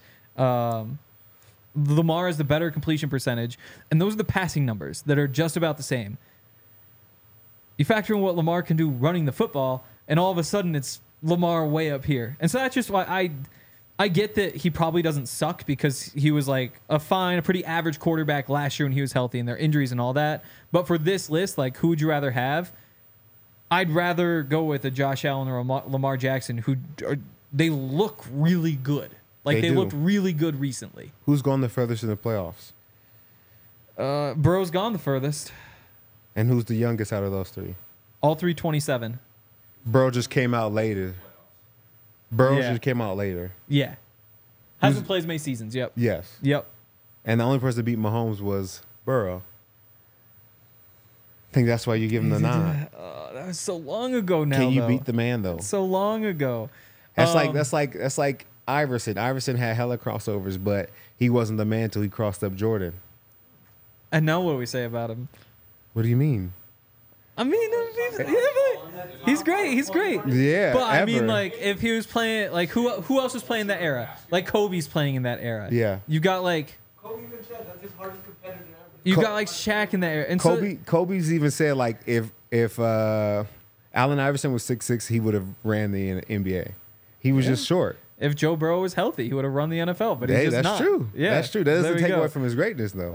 Lamar has the better completion percentage, and those are the passing numbers that are just about the same. You factor in what Lamar can do running the football, and all of a sudden it's Lamar way up here. And so that's just why I get that he probably doesn't suck because he was like a pretty average quarterback last year when he was healthy and their injuries and all that. But for this list, like, who would you rather have? I'd rather go with a Josh Allen or a Lamar Jackson they look really good. Like, they looked really good recently. Who's gone the furthest in the playoffs? Burrow's gone the furthest. And who's the youngest out of those 3? All 3 27. Burrow just came out later. Just came out later. Yeah. Hasn't played as many seasons. Yep. Yes. Yep. And the only person to beat Mahomes was Burrow. I think that's why you give him the nod. That was so long ago now. Can you beat the man, though? So long ago. That's like Iverson. Iverson had hella crossovers, but he wasn't the man until he crossed up Jordan. And now what do we say about him? What do you mean? I mean, he's great. He's great. Yeah, but I mean, like, if he was playing, like, who else was playing that era? Like, Kobe's playing in that era. Yeah. You got like Kobe even said that's his hardest competitor ever. You got like Shaq in that era. And Kobe's even said, like, if Allen Iverson was 6'6", he would have ran the NBA. He was just short. If Joe Burrow was healthy, he would have run the NFL. But he's just not. True. Yeah, that's true. That doesn't take away from his greatness, though.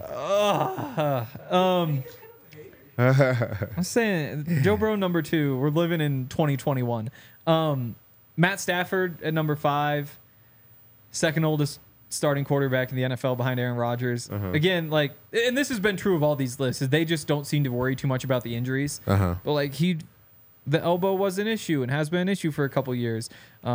I'm saying Joe Burrow number 2. We're living in 2021. Matt Stafford at number 5, second oldest starting quarterback in the NFL behind Aaron Rodgers. Again, like, and this has been true of all these lists, is they just don't seem to worry too much about the injuries. But like the elbow was an issue and has been an issue for a couple years.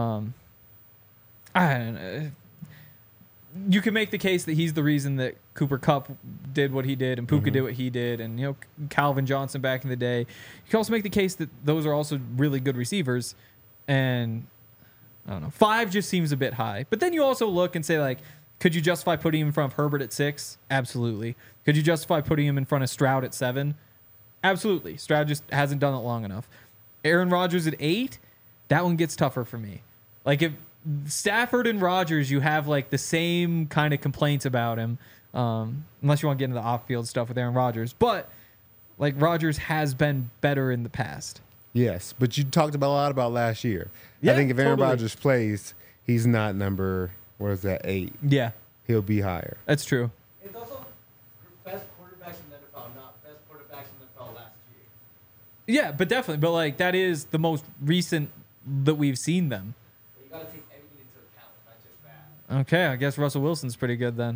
I don't know. You can make the case that he's the reason that Cooper Kupp did what he did and Puka did what he did, and Calvin Johnson back in the day. You can also make the case that those are also really good receivers, and I don't know, 5 just seems a bit high. But then you also look and say, like, could you justify putting him in front of Herbert at 6? Absolutely. Could you justify putting him in front of Stroud at 7? Absolutely. Stroud just hasn't done it long enough. Aaron Rodgers at 8? That one gets tougher for me. Like, if Stafford and Rodgers, you have like the same kind of complaints about him, unless you want to get into the off-field stuff with Aaron Rodgers. But like, Rodgers has been better in the past. Yes, but you talked about a lot about last year. Yeah, I think if Aaron Rodgers plays, he's not number 8. Yeah, he'll be higher. That's true. It's also best quarterbacks in the NFL, not best quarterbacks in the NFL last year. Yeah, but definitely. But like, that is the most recent that we've seen them. But you got to take everything into account, not just that. Okay, I guess Russell Wilson's pretty good then.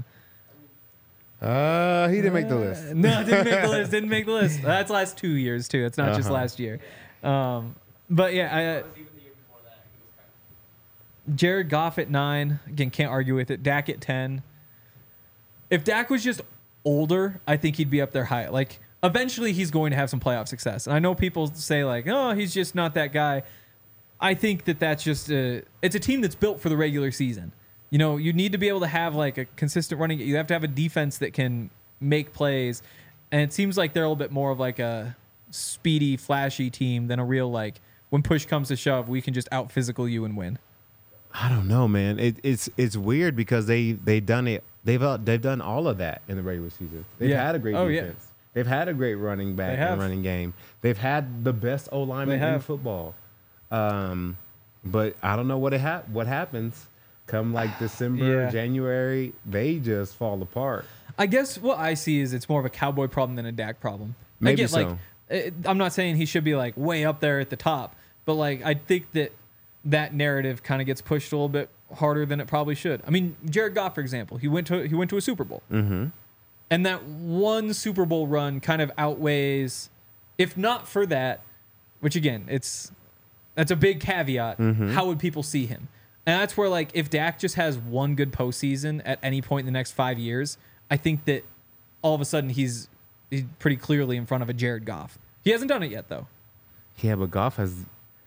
He didn't make the list. No, didn't make the list. Didn't make the list. That's last 2 years too. It's not just last year. But yeah, Even the year before that, he was kind of. Jared Goff at 9. Again, can't argue with it. Dak at 10. If Dak was just older, I think he'd be up there high. Like, eventually he's going to have some playoff success. And I know people say, like, oh, he's just not that guy. I think that's just it's a team that's built for the regular season. You know, you need to be able to have, like, a consistent running. You have to have a defense that can make plays. And it seems like they're a little bit more of, like, a speedy, flashy team than a real, like, when push comes to shove, we can just out-physical you and win. I don't know, man. It's weird because they've done it. They've done all of that in the regular season. They've had a great defense. Yeah. They've had a great running back and running game. They've had the best O-lineman in football. But I don't know what happens come like December, January. They just fall apart. I guess what I see is it's more of a Cowboy problem than a Dak problem. Maybe so. Like, I'm not saying he should be like way up there at the top, but like I think that narrative kind of gets pushed a little bit harder than it probably should. I mean, Jared Goff, for example, he went to a Super Bowl. Mm-hmm. And that one Super Bowl run kind of outweighs, if not for that, which again, that's a big caveat. Mm-hmm. How would people see him? And that's where, like, if Dak just has one good postseason at any point in the next 5 years, I think that all of a sudden he's pretty clearly in front of a Jared Goff. He hasn't done it yet, though. Yeah, but Goff has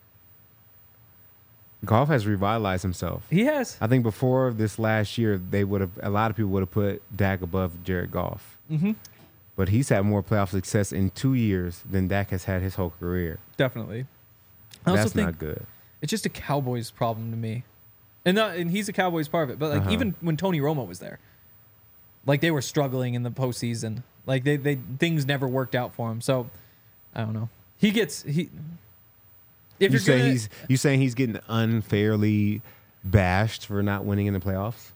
revitalized himself. He has. I think before this last year, a lot of people would have put Dak above Jared Goff. Mm-hmm. But he's had more playoff success in 2 years than Dak has had his whole career. Definitely. That's not good. It's just a Cowboys problem to me. And he's a Cowboys part of it. But like even when Tony Romo was there, like they were struggling in the postseason. Like they things never worked out for him. So I don't know. You saying he's getting unfairly bashed for not winning in the playoffs?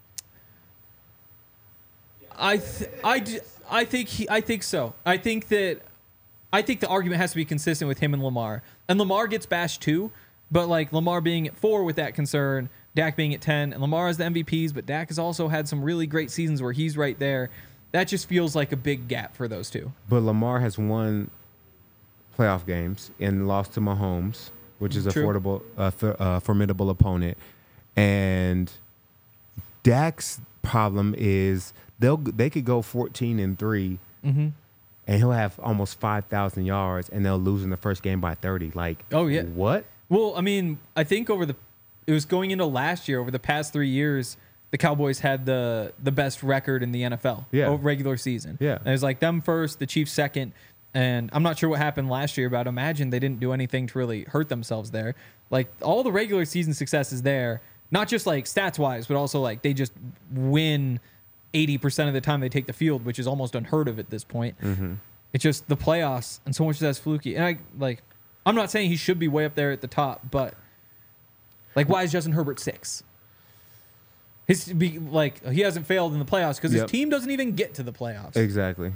I think so. I think the argument has to be consistent with him and Lamar. And Lamar gets bashed too, but like Lamar being at 4 with that concern, Dak being at 10, and Lamar has the MVPs, but Dak has also had some really great seasons where he's right there. That just feels like a big gap for those two. But Lamar has won playoff games and lost to Mahomes, which is a formidable opponent. And Dak's problem is they could go 14-3, mm-hmm. and he'll have almost 5,000 yards, and they'll lose in the first game by 30. Like, oh yeah, what? Well, I mean, I think it was going into last year. Over the past 3 years, the Cowboys had the best record in the NFL. Regular season. Yeah, and it was like them first, the Chiefs second. And I'm not sure what happened last year, but I'd imagine they didn't do anything to really hurt themselves there. Like, all the regular season success is there, not just like stats-wise, but also like they just win 80% of the time they take the field, which is almost unheard of at this point. Mm-hmm. It's just the playoffs, and so much of that's fluky. And I'm not saying he should be way up there at the top, but like, why is Justin Herbert 6? He hasn't failed in the playoffs because his team doesn't even get to the playoffs. Exactly.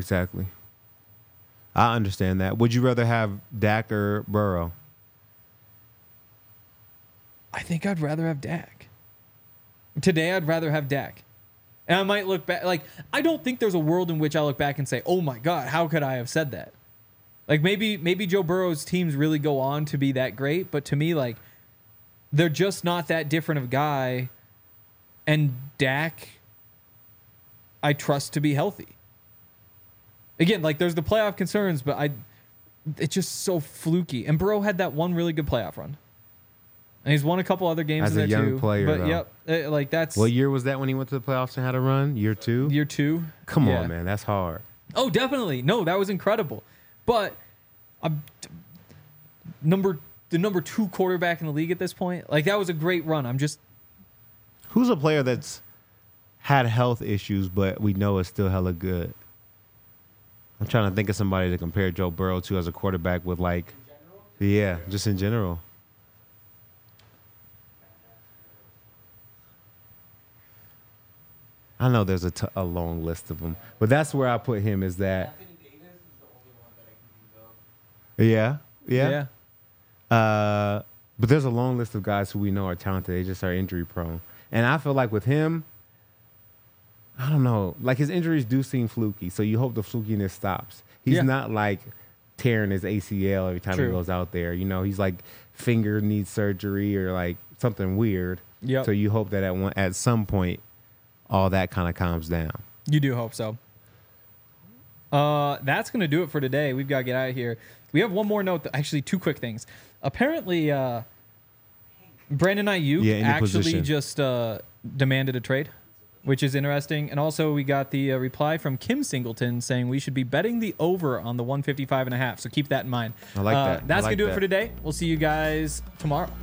I understand that. Would you rather have Dak or Burrow? I think I'd rather have Dak. Today, I'd rather have Dak. And I might look back. Like, I don't think there's a world in which I look back and say, oh my God, how could I have said that? Like, maybe Joe Burrow's teams really go on to be that great. But to me, like, they're just not that different of a guy. And Dak, I trust to be healthy. Again, like, there's the playoff concerns, but it's just so fluky. And Burrow had that one really good playoff run. And he's won a couple other games as in there a young too. player, but though. Like that's. What year was that when he went to the playoffs and had a run? Year 2? Year 2. Come on, man. That's hard. Oh, definitely. No, that was incredible. But the number 2 quarterback in the league at this point, like, that was a great run. Who's a player that's had health issues, but we know is still hella good? I'm trying to think of somebody to compare Joe Burrow to as a quarterback with, like, just in general. I know there's a long list of them, but that's where I put him. Is that? Anthony Davis is the only one that I can think of. Yeah. But there's a long list of guys who we know are talented. They just are injury prone, and I feel like with him, I don't know. Like, his injuries do seem fluky, so you hope the flukiness stops. He's not like tearing his ACL every time he goes out there. You know, he's like finger needs surgery or like something weird. Yep. So you hope that at some point, all that kind of calms down. You do hope so. That's going to do it for today. We've got to get out of here. We have one more note. Actually, two quick things. Apparently, Brandon Ayuk actually just demanded a trade, which is interesting. And also, we got the reply from Kim Singleton saying we should be betting the over on the 155.5. So keep that in mind. I like that. That's going to do it for today. We'll see you guys tomorrow.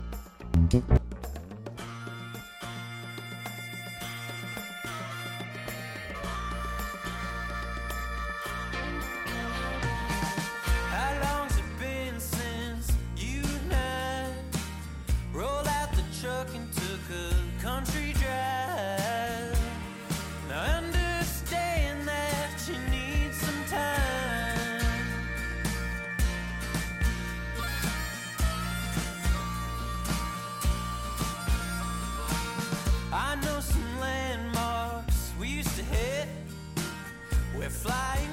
I know some landmarks we used to hit. We're flying